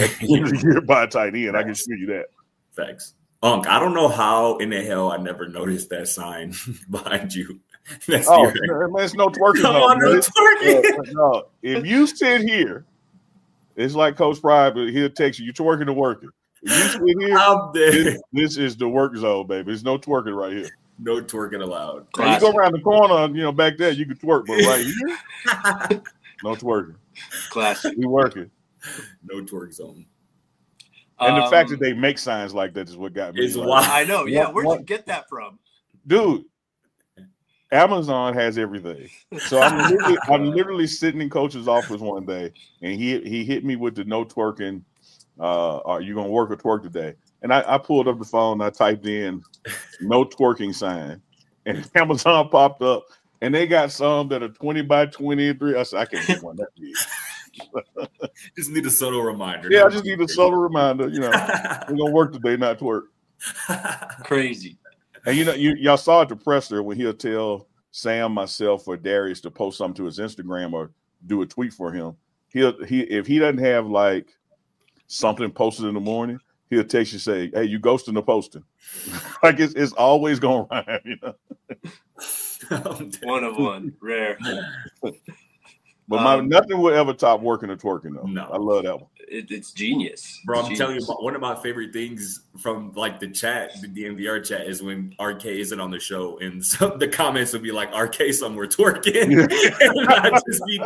by a tight end. I can assure you that. Thanks. Unc, I don't know how in the hell I never noticed that sign behind you. That's oh, man, it's no twerking. Come no, on, no twerking. Uh, no, if you sit here, it's like Coach Pride, but he'll text you, you're twerking or working. If you sit here, I'm there. This, this is the work zone, baby. There's no twerking right here. No twerking allowed. Now, you go around the corner, you know, back there, you can twerk, but right here, no twerking. Classic. We working. No twerk zone. And um, the fact that they make signs like that is what got me. Is why I know. Yeah, where'd you get that from? Dude, Amazon has everything. So I'm literally, I'm literally sitting in Coach's office one day, and he he hit me with the no twerking. Uh, are you gonna work or twerk today? And I, I pulled up the phone, and I typed in no twerking sign, and Amazon popped up, and they got some that are twenty by twenty-three. I said, I can't get one that big. Just need a subtle reminder. Yeah, I just need a subtle reminder. You know, we're gonna work today, not twerk. Crazy. And you know, you y'all saw at the presser when he'll tell Sam, myself, or Darius to post something to his Instagram or do a tweet for him. He'll he if he doesn't have like something posted in the morning, he'll text you say, "Hey, you ghosting the posting?" Like it's it's always gonna rhyme, you know. One of one, rare. But my um, nothing will ever top working or twerking though. No, I love that one. It, it's genius, bro. It's I'm genius. telling you, one of my favorite things from like the chat, the D M V R chat, is when R K isn't on the show, and some the comments will be like, "R K somewhere twerking," and I just be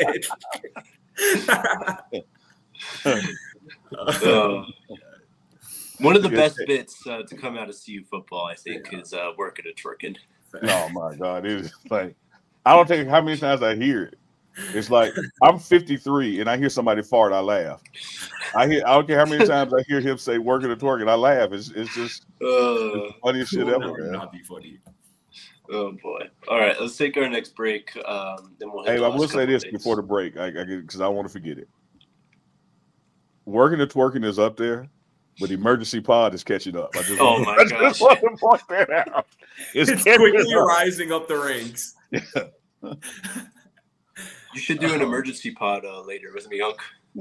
dead. uh, one of the best bits uh, to come out of C U football, I think, yeah. is uh, working and twerking. Oh my God, it is like I don't think how many times I hear it. It's like I'm fifty-three and I hear somebody fart, I laugh. I hear I don't care how many times I hear him say working and twerking, I laugh. It's it's just uh, it's the funniest shit ever. Man. Not be funny. Oh boy! All right, let's take our next break. Um, then we'll. Hit hey, I will say this before the break, I because I, I want to forget it. Working and twerking is up there, but emergency pod is catching up. I just oh want, my I gosh! just want to point that out. It's, it's quickly up. rising up the ranks. Yeah. You should do an emergency pod uh, later with me, Unc.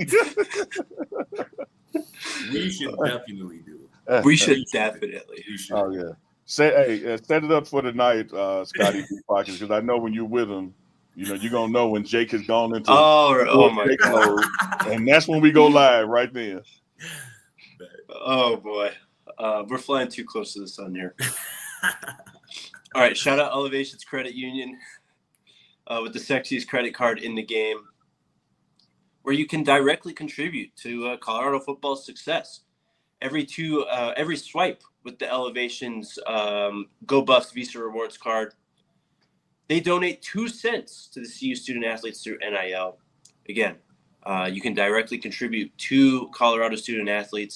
We should definitely do it. We should definitely. We should. Oh yeah. Say hey, uh, set it up for the night, uh, Scotty Pockets, because I know when you're with him, you know you're gonna know when Jake has gone into oh, oh my God. Mode, and that's when we go live right then. Oh boy, uh, we're flying too close to the sun here. All right, shout out Elevations Credit Union. Uh, with the sexiest credit card in the game, where you can directly contribute to uh, Colorado football's success. Every two, uh, every swipe with the Elevations um, Go Buffs Visa Rewards card, they donate two cents to the C U student athletes through N I L. Again, uh, you can directly contribute to Colorado student athletes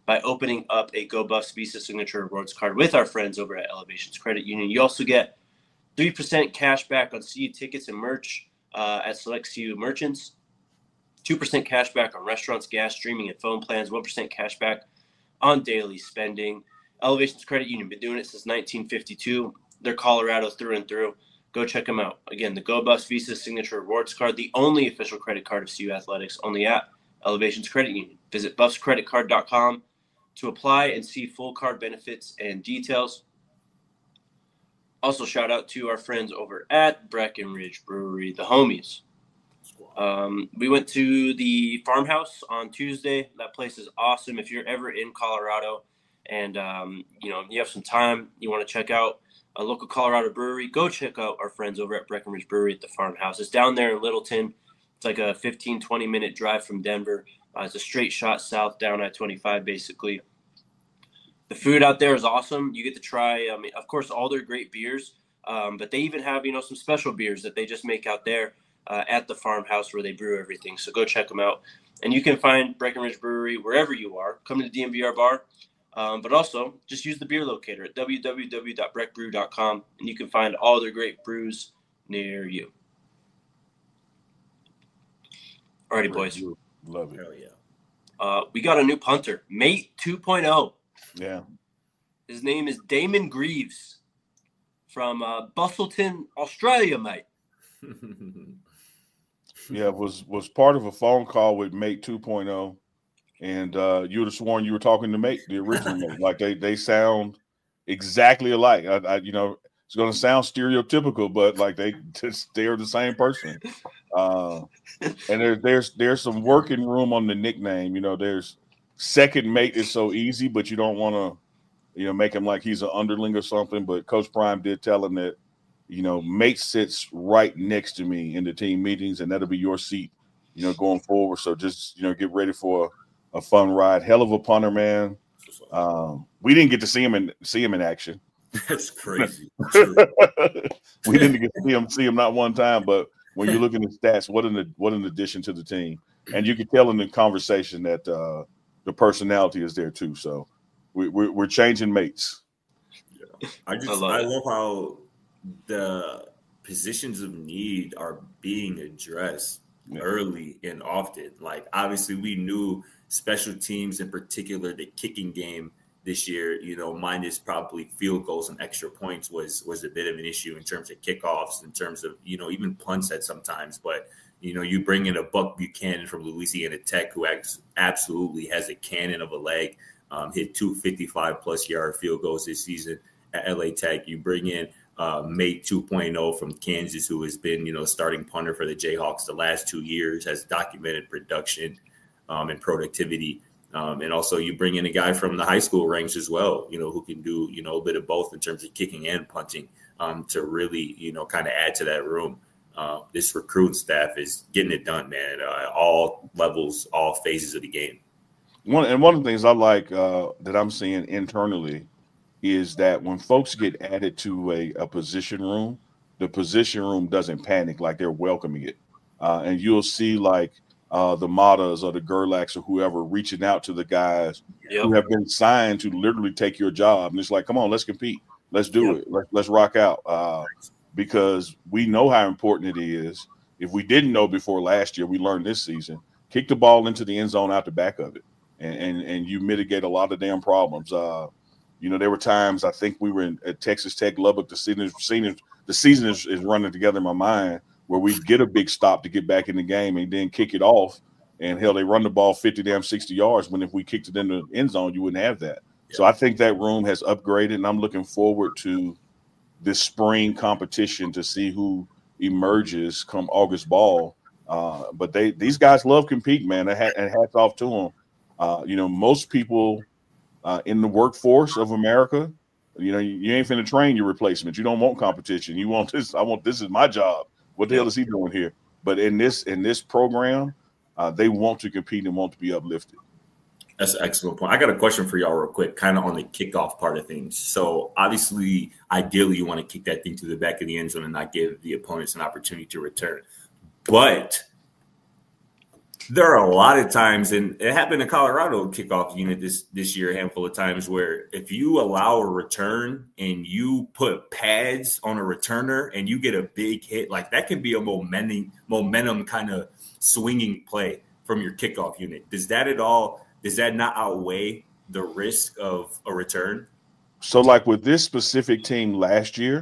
by opening up a Go Buffs Visa Signature Rewards card with our friends over at Elevations Credit Union. You also get three percent cash back on C U tickets and merch uh, at select C U merchants, two percent cash back on restaurants, gas, streaming, and phone plans, one percent cash back on daily spending. Elevations Credit Union, been doing it since nineteen fifty-two. They're Colorado through and through. Go check them out. Again, the Go Buffs Visa Signature Rewards card, the only official credit card of C U Athletics, only at Elevations Credit Union. Visit buffs credit card dot com to apply and see full card benefits and details. Also, shout out to our friends over at Breckenridge Brewery, the homies. Um, we went to the farmhouse on Tuesday. That place is awesome. If you're ever in Colorado and um, you know you have some time, you want to check out a local Colorado brewery, go check out our friends over at Breckenridge Brewery at the farmhouse. It's down there in Littleton. It's like a fifteen, twenty minute drive from Denver. Uh, it's a straight shot south down I twenty-five, basically. The food out there is awesome. You get to try, I mean, of course, all their great beers, um, but they even have, you know, some special beers that they just make out there uh, at the farmhouse where they brew everything. So go check them out. And you can find Breckenridge Brewery wherever you are. Come to the D M V R bar, um, but also just use the beer locator at w w w dot breck brew dot com, and you can find all their great brews near you. Alrighty, boys. Love it. Hell yeah. Uh, we got a new punter, Mate two point oh. Yeah. His name is Damon Greaves from uh, Bustleton, Australia, mate. Yeah, was was part of a phone call with Mate two point oh, and uh, you would have sworn you were talking to Mate, the original Mate. Like they they sound exactly alike. I, I you know it's going to sound stereotypical, but like they just they're the same person. Uh, and there, there's there's some working room on the nickname. You know, there's second Mate is so easy, but you don't want to, you know, make him like he's an underling or something. But Coach Prime did tell him that, you know, Mate sits right next to me in the team meetings, and that'll be your seat, you know, going forward. So just, you know, get ready for a, a fun ride. Hell of a punter, man. Um, we didn't get to see him in see him in action. That's crazy. We didn't get to see him see him not one time, but when you look at the stats, what an what an addition to the team. And you can tell in the conversation that uh, the personality is there too. So we, we're we're changing mates. Yeah. I just I love, I love how the positions of need are being addressed yeah. early and often. Like obviously we knew special teams, in particular the kicking game this year, you know, minus probably field goals and extra points was was a bit of an issue in terms of kickoffs, in terms of, you know, even punts at sometimes. But, you know, you bring in a Buck Buchanan from Louisiana Tech, who acts, absolutely has a cannon of a leg, um, hit two fifty-five plus yard field goals this season at L A Tech. You bring in uh, Mate two point oh from Kansas, who has been, you know, starting punter for the Jayhawks the last two years, has documented production um, and productivity. Um, and also you bring in a guy from the high school ranks as well, you know, who can do, you know, a bit of both in terms of kicking and punting um, to really, you know, kind of add to that room. Uh, this recruiting staff is getting it done, man, uh, all levels, all phases of the game. One and one of the things I like uh, that I'm seeing internally is that when folks get added to a, a position room, the position room doesn't panic, like they're welcoming it. Uh, and you'll see like uh, the Matas or the Gerlachs or whoever reaching out to the guys yep. who have been signed to literally take your job. And it's like, come on, let's compete. Let's do yep. it. Let's, let's rock out. Uh, because we know how important it is. If we didn't know before last year, we learned this season, kick the ball into the end zone out the back of it. And, and, and you mitigate a lot of damn problems. Uh, you know, there were times I think we were in, at Texas Tech, Lubbock. The season, season, the season is, is running together in my mind where we get a big stop to get back in the game and then kick it off. And hell, they run the ball fifty, damn sixty yards. When if we kicked it in the end zone, you wouldn't have that. Yeah. So I think that room has upgraded, and I'm looking forward to this spring competition to see who emerges come August ball. Uh, but they these guys love competing, man. And hats off to them. Uh, you know, most people uh, in the workforce of America, you know, you, you ain't finna train your replacement. You don't want competition. You want this. I want this is my job. What the hell is he doing here? But in this in this program, uh, they want to compete and want to be uplifted. That's an excellent point. I got a question for y'all real quick, kind of on the kickoff part of things. So obviously, ideally, you want to kick that thing to the back of the end zone and not give the opponents an opportunity to return. But There are a lot of times, and it happened in Colorado kickoff unit this this year a handful of times, where if you allow a return and you put pads on a returner and you get a big hit, like that can be a momentum momentum kind of swinging play from your kickoff unit. Does that at all? Does that not outweigh the risk of a return? So, like with this specific team last year,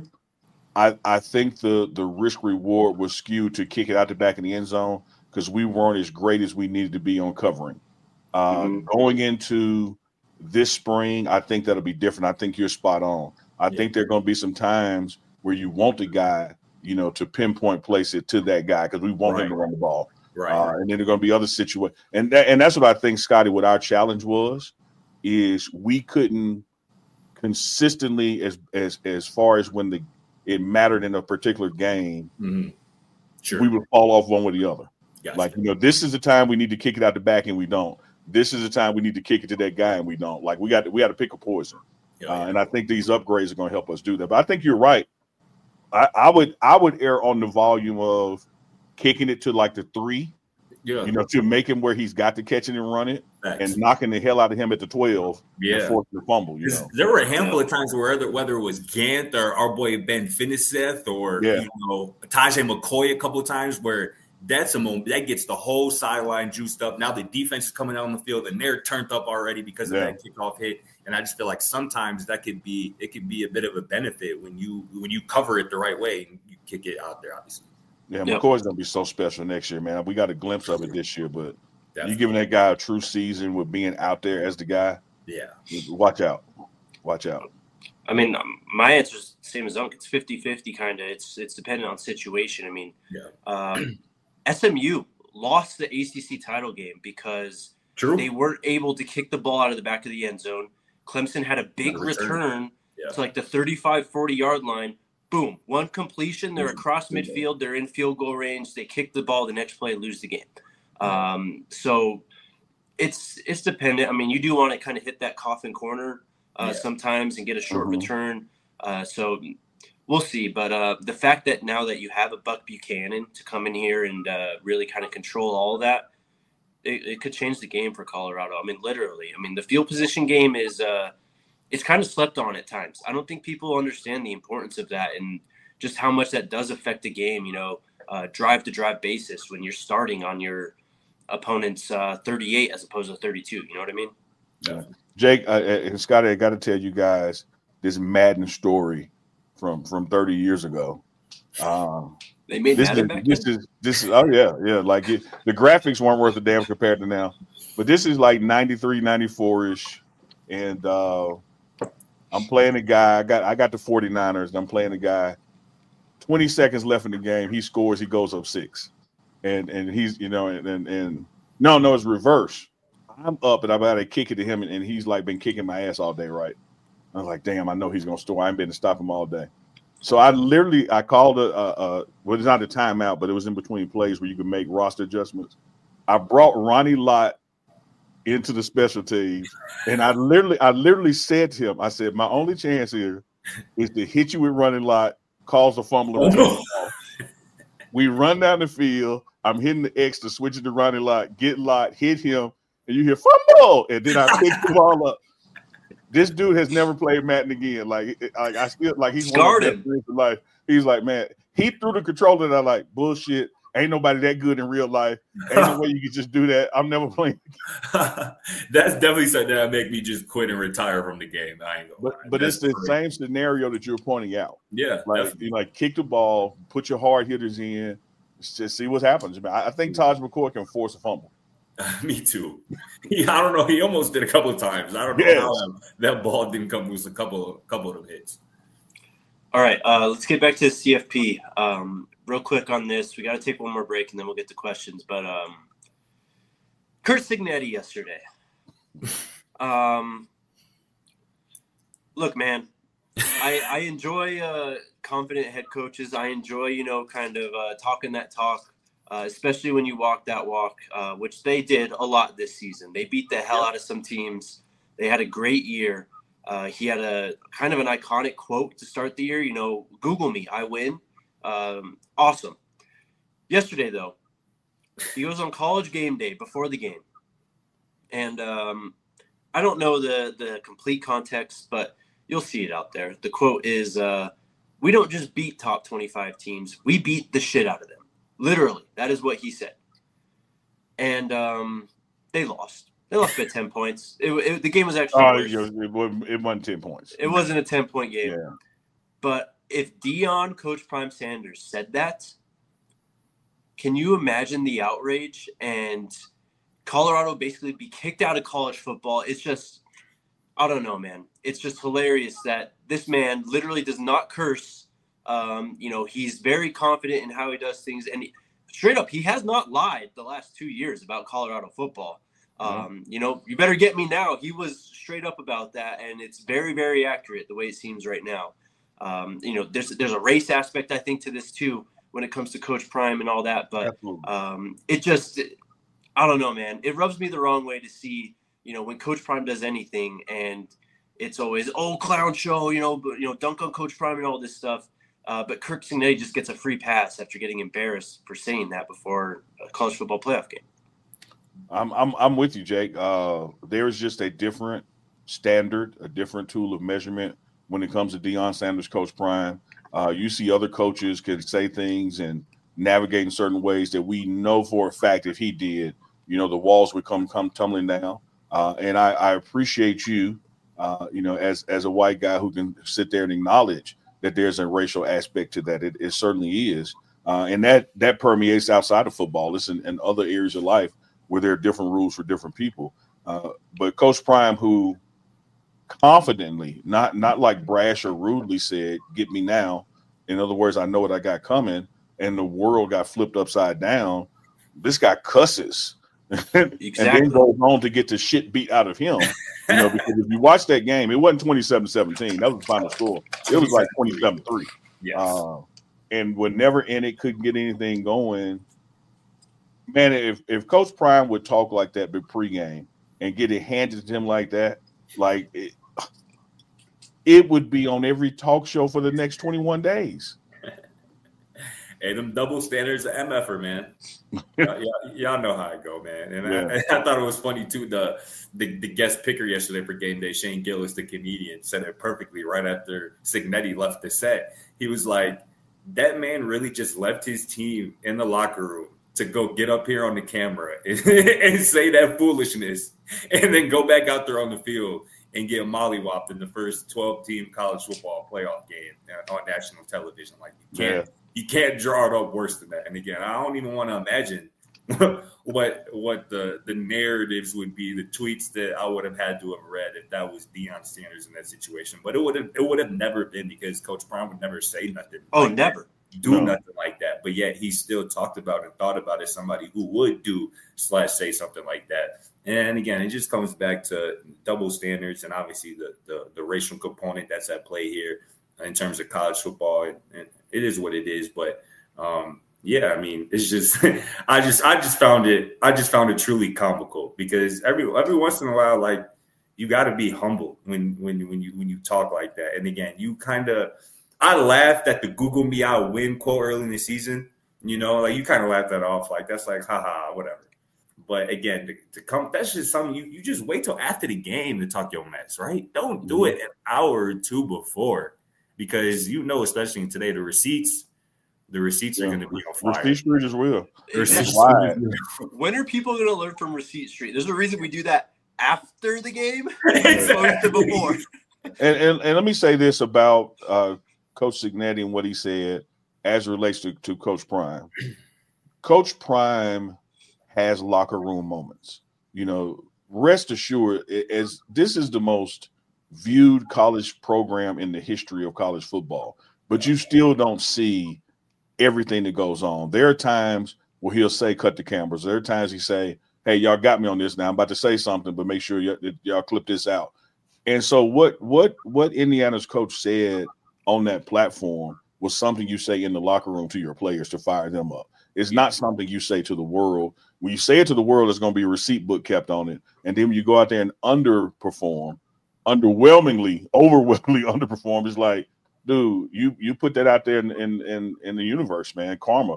I I think the the risk reward was skewed to kick it out the back in the end zone, because we weren't as great as we needed to be on covering. Uh, mm-hmm. Going into this spring, I think that'll be different. I think you're spot on. I yeah. think there are going to be some times where you want the guy, you know, to pinpoint place it to that guy, because we want right. him to run the ball. Right. Uh, and then there are going to be other situations. And, that, and that's what I think, Scotty, what our challenge was, is we couldn't consistently, as as as far as when the it mattered in a particular game, mm-hmm. sure. we would fall off one with the other. Gotcha. Like, you know, this is the time we need to kick it out the back and we don't. This is the time we need to kick it to that guy and we don't. Like, we got to, we got to pick a poison. Yeah, uh, yeah. And I think these upgrades are going to help us do that. But I think you're right. I, I would I would err on the volume of kicking it to like the three, yeah. you know, to make him where he's got to catch it and run it. Thanks. And knocking the hell out of him at the twelve yeah. and forcing the fumble. You know, there were a handful yeah. of times where whether, whether it was Gant or our boy Ben Finiseth or yeah. you know Tajay McCoy a couple of times where that's a moment that gets the whole sideline juiced up. Now the defense is coming out on the field and they're turned up already because of yeah. that kickoff hit. And I just feel like sometimes that could be it could be a bit of a benefit when you when you cover it the right way and you kick it out there, obviously. Yeah, yep. McCoy's gonna be so special next year, man. We got a glimpse of it this year, but Definitely. You giving that guy a true season with being out there as the guy. Yeah. Watch out. Watch out. I mean, um, my answer is the same as Unc. It's fifty-fifty kind of. It's it's dependent on situation. I mean, yeah. um, S M U lost the A C C title game because True. they weren't able to kick the ball out of the back of the end zone. Clemson had a big return, return yeah. to like the thirty-five, forty-yard line. Boom. One completion. They're across midfield. They're in field goal range. They kick the ball the next play, lose the game. Um, so it's it's dependent. I mean, you do want to kind of hit that coffin corner uh, yeah. sometimes and get a short mm-hmm. return. Uh, so we'll see. But uh, the fact that now that you have a Buck Buchanan to come in here and uh, really kind of control all of that, it, it could change the game for Colorado. I mean, literally. I mean, the field position game is uh, it's kind of slept on at times. I don't think people understand the importance of that and just how much that does affect the game, you know, uh, drive-to-drive basis when you're starting on your opponent's uh, thirty-eight as opposed to thirty-two. You know what I mean? Yeah. Jake uh, and Scotty, I got to tell you guys this Madden story from from thirty years ago. Um, they made this Madden is, back this then? is this is oh yeah yeah like it, the graphics weren't worth a damn compared to now, but this is like ninety-three, ninety-four ish, and uh, I'm playing a guy. I got I got the forty-niners, and I'm playing a guy. twenty seconds left in the game, he scores. He goes up six. And and he's, you know, and, and and no, no, it's reverse. I'm up and I'm about to kick it to him, and, and he's like been kicking my ass all day, right? I was like, damn, I know he's gonna score. I ain't been to stop him all day. So I literally I called a, a, a well, it's not a timeout, but it was in between plays where you could make roster adjustments. I brought Ronnie Lott into the special teams, and I literally I literally said to him, I said, my only chance here is to hit you with Ronnie Lott, cause a fumble. Oh, no. We run down the field. I'm hitting the X to switch it to Ronnie Lott, get Lott, hit him, and you hear fumble, and then I pick the ball up. This dude has never played Madden again. Like, like I still like he's scarred one of the best in life. He's like, man, he threw the controller, and I like bullshit. Ain't nobody that good in real life. Ain't no way you can just do that. I'm never playing. That's definitely something that make me just quit and retire from the game. I ain't gonna but, lie. but That's it's the great. same scenario that you're pointing out. Yeah, like definitely. you like kick the ball, put your hard hitters in, just see what happens. I think Taj McCoy can force a fumble. Me too. He, I don't know. He almost did a couple of times. I don't know yes. how that, that ball didn't come loose. A couple, a couple of them hits. All right, uh, let's get back to the C F P. Um, real quick on this, we got to take one more break and then we'll get to questions. But um, Curt Cignetti yesterday. Um, look, man, I, I enjoy uh, confident head coaches. I enjoy, you know, kind of uh, talking that talk, uh, especially when you walk that walk, uh, which they did a lot this season. They beat the hell out of some teams. They had a great year. Uh, he had a kind of an iconic quote to start the year, you know, Google me, I win. Um, awesome. Yesterday, though, He goes on College Game Day before the game. And um, I don't know the, the complete context, but you'll see it out there. The quote is, uh, we don't just beat top twenty-five teams. We beat the shit out of them. Literally, that is what he said. And um, they lost. They lost by ten points. It, it, the game was actually Oh, worse. it wasn't, it wasn't ten points. It wasn't a ten-point game. Yeah. But if Deion, Coach Prime Sanders, said that, can you imagine the outrage and Colorado basically be kicked out of college football? It's just, I don't know, man. It's just hilarious that this man literally does not curse. Um, you know, he's very confident in how he does things. And he, straight up, he has not lied the last two years about Colorado football. Um, mm-hmm. You know, you better get me now. He was straight up about that, and it's very, very accurate the way it seems right now. Um, you know, there's there's a race aspect, I think, to this too when it comes to Coach Prime and all that. But um, it just, I don't know, man. It rubs me the wrong way to see, you know, when Coach Prime does anything, and it's always, oh, clown show, you know, but you know, dunk on Coach Prime and all this stuff. Uh, but Kirk Cignetti just gets a free pass after getting embarrassed for saying that before a college football playoff game. I'm I'm I'm with you, Jake. Uh, there is just a different standard, a different tool of measurement when it comes to Deion Sanders, Coach Prime. Uh, you see other coaches can say things and navigate in certain ways that we know for a fact if he did, you know, the walls would come come tumbling down. Uh, and I, I appreciate you, uh, you know, as as a white guy who can sit there and acknowledge that there's a racial aspect to that. It, it certainly is. Uh, and that that permeates outside of football. It's in, in other areas of life where there are different rules for different people. Uh, but Coach Prime, who confidently, not not like brash or rudely said, get me now. In other words, I know what I got coming, and the world got flipped upside down. This guy cusses. Exactly. And then goes on to get the shit beat out of him. You know, because if you watch that game, it wasn't twenty-seven seventeen. That was the final score. It was like twenty-seven three. Yes. Uh, and we're never in it, couldn't get anything going. Man, if, if Coach Prime would talk like that but pregame and get it handed to him like that, like it, it would be on every talk show for the next twenty-one days. Hey, them double standards of M F R, man. y'all, y'all know how I go, man. And yeah. I, I thought it was funny, too. The, the the guest picker yesterday for game day, Shane Gillis, the comedian, said it perfectly right after Cignetti left the set. He was like, that man really just left his team in the locker room to go get up here on the camera and, and say that foolishness and then go back out there on the field and get mollywopped in the first twelve-team college football playoff game on national television. Like, you can't, yeah. you can't draw it up worse than that. And again, I don't even want to imagine what what the, the narratives would be, the tweets that I would have had to have read if that was Deion Sanders in that situation. But it would have it would have never been, because Coach Prime would never say nothing. Oh, like never. That, do no. nothing like that. But yet he still talked about and thought about it, somebody who would do slash say something like that. And again, it just comes back to double standards and obviously the, the, the racial component that's at play here in terms of college football. And, and it is what it is. But um, yeah, I mean, it's just I just I just found it I just found it truly comical, because every every once in a while, like, you got to be humble when when when you when you talk like that. And again, you kind of I laughed at the Google me I'll win quote early in the season. You know, like, you kind of laughed that off, like, that's like, haha, whatever. But again, to, to come, that's just something you, you just wait till after the game to talk your mess, right? Don't do it an hour or two before, because you know, especially in today, the receipts, the receipts yeah. are going to be on fire. Receipt Street as well. When are people going to learn from Receipt Street? There's a reason we do that after the game, exactly. before. And, and and let me say this about uh, Coach Cignetti and what he said as it relates to, to Coach Prime. Coach Prime has locker room moments. You know, rest assured, as this is the most viewed college program in the history of college football, but you still don't see everything that goes on. There are times where he'll say, cut the cameras. There are times he say, hey, y'all got me on this now. I'm about to say something, but make sure y- y'all clip this out. And so what what what Indiana's coach said on that platform was something you say in the locker room to your players to fire them up. It's not something you say to the world. When you say it to the world, there's going to be a receipt book kept on it. And then when you go out there and underperform, underwhelmingly, overwhelmingly underperform, it's like, dude, you you put that out there in in in, in the universe, man. Karma.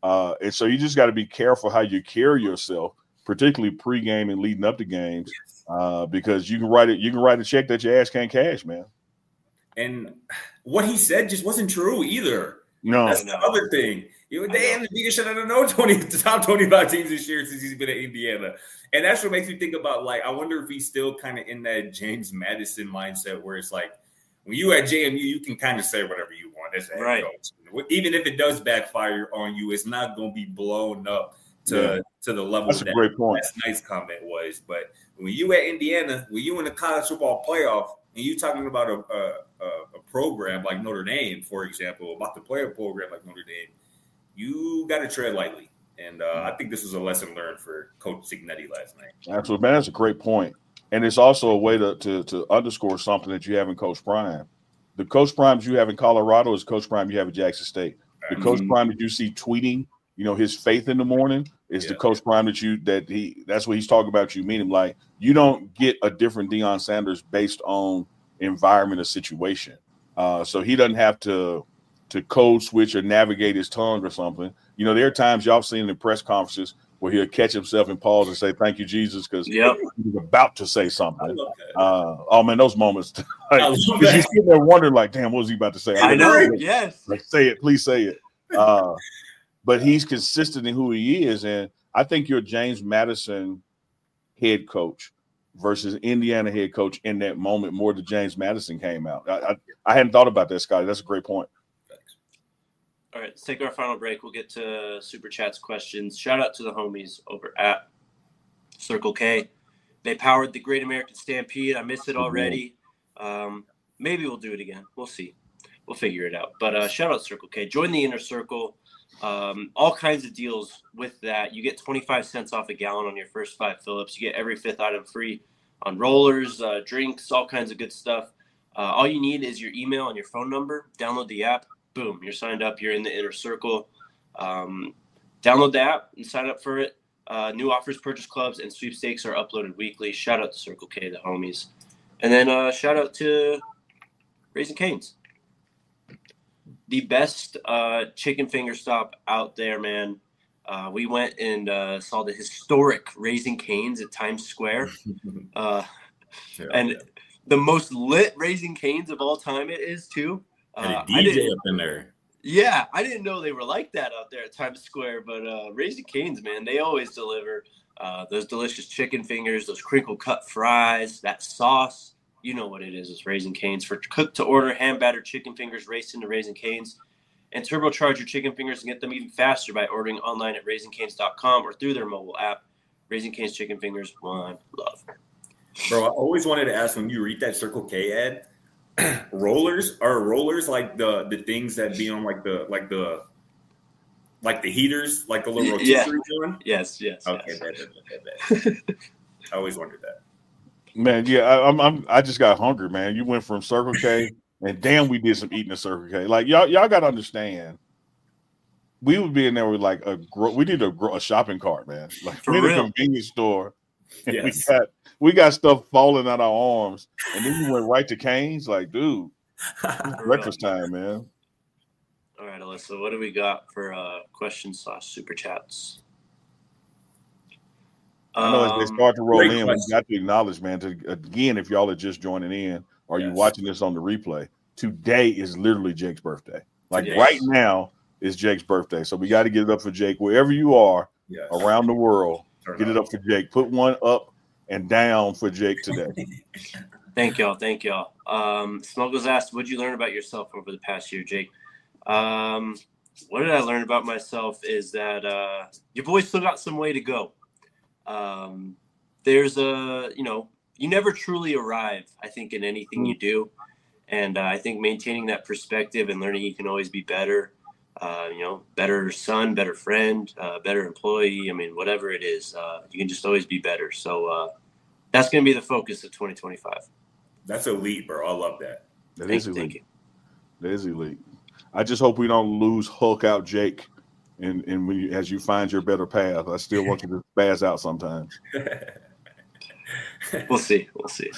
Uh, and so you just got to be careful how you carry yourself, particularly pregame and leading up to games, uh, because you can write it. You can write a check that your ass can't cash, man. And what he said just wasn't true either. No, that's the other thing. You know, they Indiana should have known twenty the top twenty-five teams this year since he's been at Indiana, and that's what makes me think about like I wonder if he's still kind of in that James Madison mindset where it's like when you at J M U, you can kind of say whatever you want as a head right. coach. Even if it does backfire on you, it's not going to be blown up to yeah. to the level. That's that a great point. That's nice comment was, but when you at Indiana, when you in the college football playoff, and you talking about a, a, a program like Notre Dame, for example, about to play a program like Notre Dame, you got to tread lightly. And uh, I think this was a lesson learned for Coach Cignetti last night. Absolutely, man. That's a great point. And it's also a way to, to, to underscore something that you have in Coach Prime. The Coach Primes you have in Colorado is Coach Prime you have at Jackson State. The mm-hmm. Coach Prime that you see tweeting, you know, his faith in the morning is yeah. the Coach Prime that you that he that's what he's talking about. You meet him like you don't get a different Deion Sanders based on environment or situation. Uh, so he doesn't have to to code switch or navigate his tongue or something. You know, there are times y'all seen in press conferences where he'll catch himself and pause and say, "Thank you, Jesus," because yep. he's about to say something. Uh, oh man, those moments, like, you sit there wondering, like, "Damn, what was he about to say?" I, I know. know. Yes. Like, say it, please say it. Uh, but he's consistent in who he is, and I think you're James Madison head coach versus Indiana head coach in that moment more than James Madison came out. I, I, I hadn't thought about that, Scotty. That's a great point. All right, let's take our final break. We'll get to Super Chat's questions. Shout out to the homies over at Circle K. They powered the Great American Stampede. I missed it already. Um, maybe we'll do it again. We'll see. We'll figure it out. But uh, shout out Circle K. Join the Inner Circle. Um, all kinds of deals with that. You get twenty-five cents off a gallon on your first five fill-ups. You get every fifth item free on rollers, uh, drinks, all kinds of good stuff. Uh, all you need is your email and your phone number. Download the app. Boom, you're signed up. You're in the Inner Circle. Um, download the app and sign up for it. Uh, new offers, purchase clubs, and sweepstakes are uploaded weekly. Shout out to Circle K, the homies. And then uh, shout out to Raising Cane's. The best uh, chicken finger stop out there, man. Uh, we went and uh, saw the historic Raising Cane's at Times Square. Uh, yeah, and yeah. the most lit Raising Cane's of all time it is, too. Uh, and a D J up in there. Yeah, I didn't know they were like that out there at Times Square, but uh, Raising Cane's, man, they always deliver uh, those delicious chicken fingers, those crinkle cut fries, that sauce. You know what it is. It's Raising Cane's. For cooked to order, hand battered chicken fingers raced into Raising Cane's. And turbocharge your chicken fingers and get them even faster by ordering online at raising cane's dot com or through their mobile app. Raising Cane's chicken fingers, one love. Bro, I always wanted to ask when you read that Circle K ad, rollers are rollers like the the things that be on like the like the like the heaters, like the little rotisserie yeah. joint? Yes, yes. Okay, yes. bad, bad, bad, bad. I always wondered that. Man, yeah, I, I'm, I'm I just got hungry, man. You went from Circle K, and damn, we did some eating at Circle K. Like y'all, y'all got to understand. We would be in there with like a gro- we need a, gro- a shopping cart, man. Like For we need real. a convenience store. And Yes. we got we got stuff falling out our arms, and then we went right to Cane's. Like, dude, breakfast time, man. All right, Alyssa, what do we got for uh, questions slash super chats? I know as they start to roll great in, question. we got to acknowledge, man. To, again, if y'all are just joining in or you Yes. watching this on the replay, today is literally Jake's birthday. Like Yes. right now is Jake's birthday, so we got to get it up for Jake wherever you are Yes. around the world. Turn Get it up. up for Jake. Put one up and down for Jake today. Thank y'all. Thank y'all. Um, Smuggles asked, what did you learn about yourself over the past year, Jake? Um, what did I learn about myself is that uh, your boy still got some way to go. Um, there's a, you know, you never truly arrive, I think, in anything you do. And uh, I think maintaining that perspective and learning you can always be better, uh, you know, better son, better friend, uh, better employee. I mean, whatever it is, uh, you can just always be better. So uh, that's going to be the focus of twenty twenty-five. That's elite, bro. I love that. That Thank is you, elite. thank you. That is elite. I just hope we don't lose Hulk out Jake, and and when you, as you find your better path. I still want you to spaz out sometimes. We'll see. We'll see.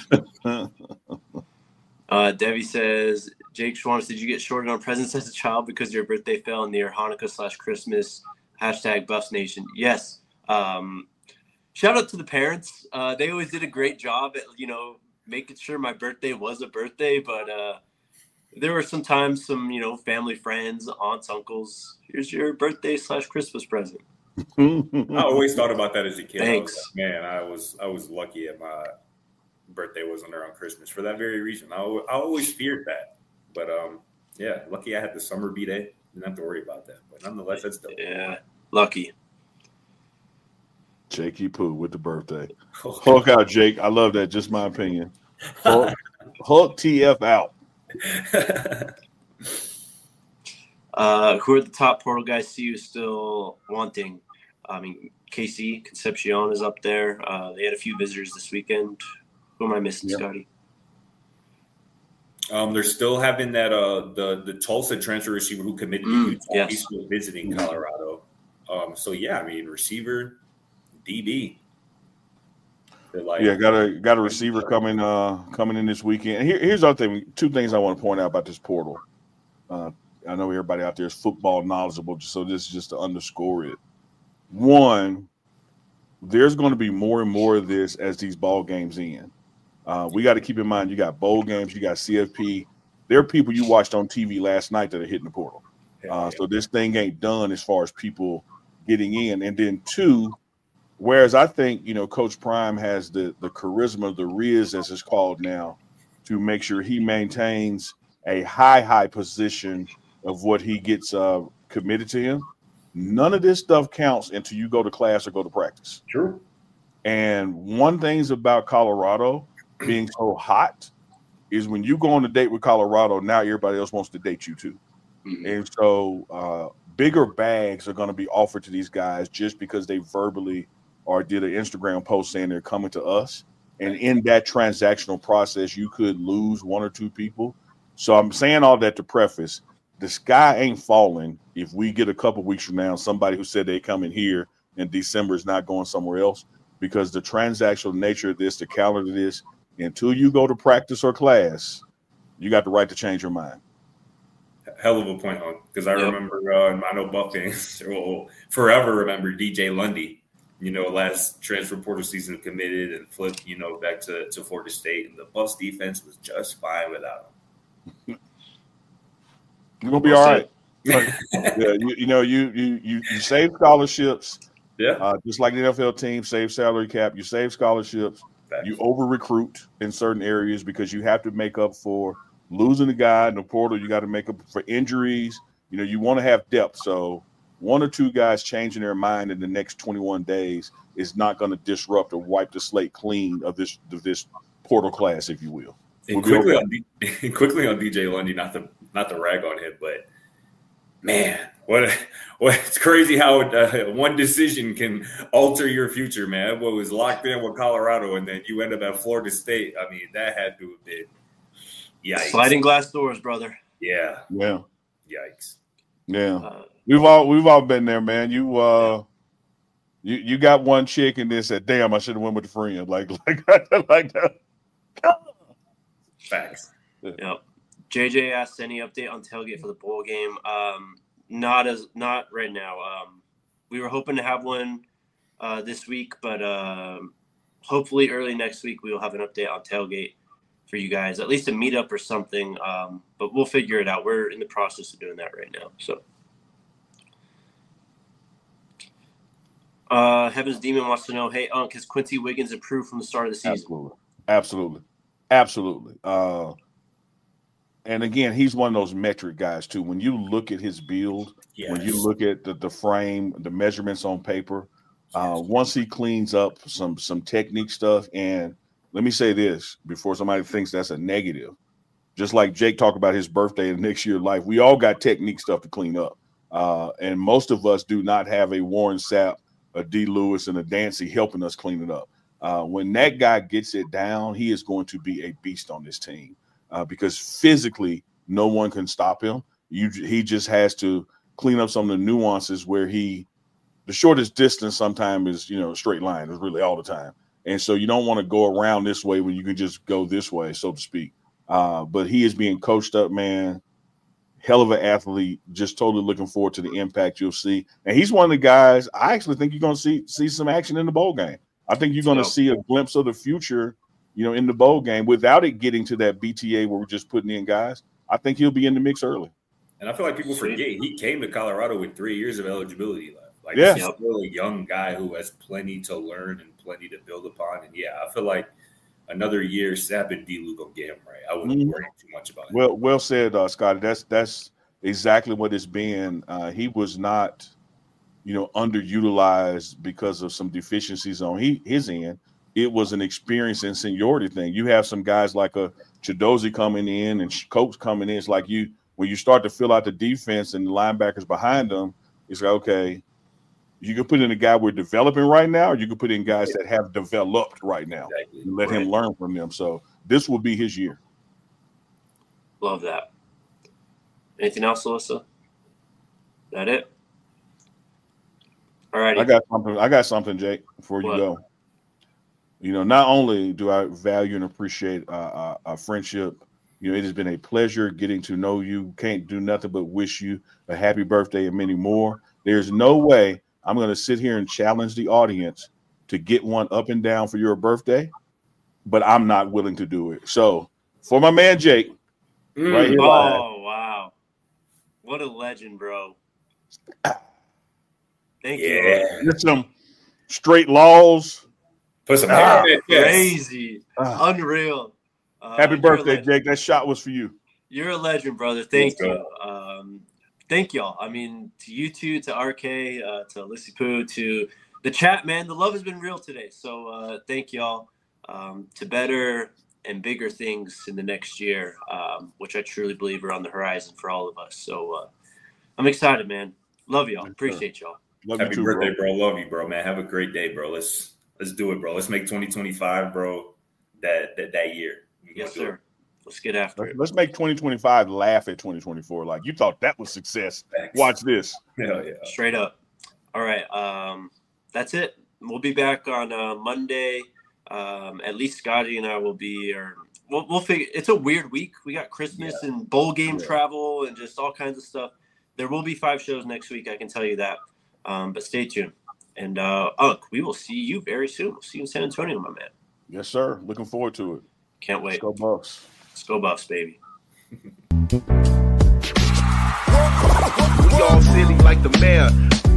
Uh, Debbie says, Jake Schwartz, did you get shorted on presents as a child because your birthday fell near Hanukkah slash Christmas? Hashtag Buffs Nation. Yes. Um, shout out to the parents. Uh, they always did a great job at, you know, making sure my birthday was a birthday. But uh, there were sometimes some, you know, family friends, aunts, uncles. Here's your birthday slash Christmas present. I always thought about that as a kid. Thanks. I was like, man, I was I was lucky at my birthday wasn't there on Christmas for that very reason. I, I always feared that. But, um, yeah, lucky I had the summer B-Day. Didn't have to worry about that. But nonetheless, that's dope. Yeah, lucky. Jakey Poo with the birthday. Hulk out, Jake. I love that. Just my opinion. Hulk, Hulk T F out. uh, who are the top portal guys see you still wanting? I mean, K C, Concepcion is up there. Uh, they had a few visitors this weekend. Who am I missing, Yep. Scotty? Um, they're still having that uh the the Tulsa transfer receiver who committed Mm, to Utah. yes. He's still visiting Colorado. Um, so yeah, I mean receiver, D B. They're like Yeah, got a got a receiver coming uh coming in this weekend. And here, here's the other thing. Two things I want to point out about this portal. Uh, I know everybody out there is football knowledgeable, so this is just to underscore it. One, there's going to be more and more of this as these ball games end. Uh, we got to keep in mind you got bowl games, you got C F P. There are people you watched on T V last night that are hitting the portal. Uh, so this thing ain't done as far as people getting in. And then two, whereas I think, you know, Coach Prime has the the charisma, the riz as it's called now, to make sure he maintains a high, high position of what he gets uh, committed to him. None of this stuff counts until you go to class or go to practice. True. And one thing's about Colorado being so hot is when you go on a date with Colorado, now everybody else wants to date you too. Mhm. And so uh, bigger bags are going to be offered to these guys just because they verbally or did an Instagram post saying they're coming to us. And in that transactional process, you could lose one or two people. So I'm saying all that to preface, the sky ain't falling if we get a couple weeks from now somebody who said they come in here in December is not going somewhere else, because the transactional nature of this, the calendar of this, until you go to practice or class, you got the right to change your mind. Hell of a point, on because I Yep. remember uh, I know Buff fans will forever remember D J Lundy. You know, last transfer portal season committed and flipped, you know, back to, to Florida State, and the Buffs defense was just fine without him. You're gonna be Well all said. right. yeah, you, you know, you you you you save scholarships, Yeah, uh, just like the N F L team save salary cap. You save scholarships. facts. You over recruit in certain areas because you have to make up for losing a guy in the portal. You got to make up for injuries. You know, you want to have depth. So one or two guys changing their mind in the next twenty-one days is not going to disrupt or wipe the slate clean of this of this portal class, if you will. And We'll be quickly okay. on D- quickly on D J Lundy, not to not to rag on him, but man, what what it's crazy how uh, one decision can alter your future, man. What was locked in with Colorado, and then you end up at Florida State. I mean, that had to have been yikes. Sliding glass doors, brother. Yeah, Yeah, yikes. yeah. Uh, We've all we've all been there, man. You uh, you you got one chick and then said, "Damn, I should have went with a friend." Like like like that. Facts. Yep. J J asked any update on tailgate for the bowl game. Um, not as not right now. Um, we were hoping to have one uh, this week, but um, hopefully early next week we will have an update on tailgate for you guys, at least a meetup or something. Um, but we'll figure it out. We're in the process of doing that right now. So, uh, Heaven's Demon wants to know, hey, Unc, has Quincy Wiggins improved from the start of the season? Absolutely, absolutely, absolutely. Uh, and again, he's one of those metric guys too. When you look at his build, Yes. when you look at the, the frame, the measurements on paper, uh, once he cleans up some some technique stuff, and let me say this before somebody thinks that's a negative. Just like Jake talked about his birthday and next year life, we all got technique stuff to clean up, uh, and most of us do not have a Warren Sapp, a D. Lewis, and a Dancy helping us clean it up. Uh, when that guy gets it down, he is going to be a beast on this team. Uh, because physically, no one can stop him. You, he just has to clean up some of the nuances where he, the shortest distance sometimes is, you know, a straight line is really all the time. And so you don't want to go around this way when you can just go this way, so to speak. Uh, but he is being coached up, man. hell of an athlete. Just totally looking forward to the impact you'll see. And he's one of the guys I actually think you're going to see see some action in the bowl game. I think you're going to see a glimpse of the future, you know, in the bowl game without it getting to that B T A where we're just putting in guys. I think he'll be in the mix early. And I feel like people forget he came to Colorado with three years of eligibility left. Like, yeah. he's still a young guy who has plenty to learn and plenty to build upon. And, yeah, I feel like another year, Sapp and D-Luke will get him right. I wouldn't mm-hmm. worry too much about it. Well, well said, uh, Scotty. That's that's exactly what it's been. Uh, he was not, you know, underutilized because of some deficiencies on he, his end. It was an experience and seniority thing. You have some guys like a Chidozie coming in and Coates coming in. It's like you when you start to fill out the defense and the linebackers behind them, it's like, okay, you can put in a guy we're developing right now, or you can put in guys that have developed right now exactly. and let right. him learn from them. So this will be his year. Love that. Anything else, Alyssa? That it? All right. I got something. I got something, Jake, before you what? go. You know, not only do I value and appreciate uh, our, our friendship, you know, it has been a pleasure getting to know you. Can't do nothing but wish you a happy birthday and many more. There's no way I'm going to sit here and challenge the audience to get one up and down for your birthday, but I'm not willing to do it. So for my man, Jake, mm, right here. Oh, live, wow. What a legend, bro. Thank yeah. you. Get some straight laws. Put some ah, crazy. Ah. Unreal. Uh, Happy birthday, Jake. That shot was for you. You're a legend, brother. Thank you. Um, thank y'all. I mean, to you two, to R K, uh, to Lissy Poo, to the chat, man. The love has been real today. So uh, thank y'all. Um, to better and bigger things in the next year, um, which I truly believe are on the horizon for all of us. So uh, I'm excited, man. Love y'all. Appreciate y'all. Love Happy you too, birthday, bro. bro. Love you, bro, man. Have a great day, bro. Let's let's do it, bro. Let's make twenty twenty-five, bro, that that, that year. Yes, sir. Let's get after let's, it. Let's make twenty twenty-five laugh at twenty twenty-four. Like, you thought that was success. Thanks. Watch this. Hell yeah. Straight up. All right. Um, that's it. We'll be back on uh, Monday. Um, at least Scotty and I will be, or we'll, we'll figure. It's a weird week. We got Christmas yeah. and bowl game yeah. travel and just all kinds of stuff. There will be five shows next week. I can tell you that. Um, but stay tuned. And uh, Unk, we will see you very soon. We'll see you in San Antonio, my man. Yes, sir. Looking forward to it. Can't wait. Let's go Buffs. Let's go Buffs, baby. We all silly like the mayor.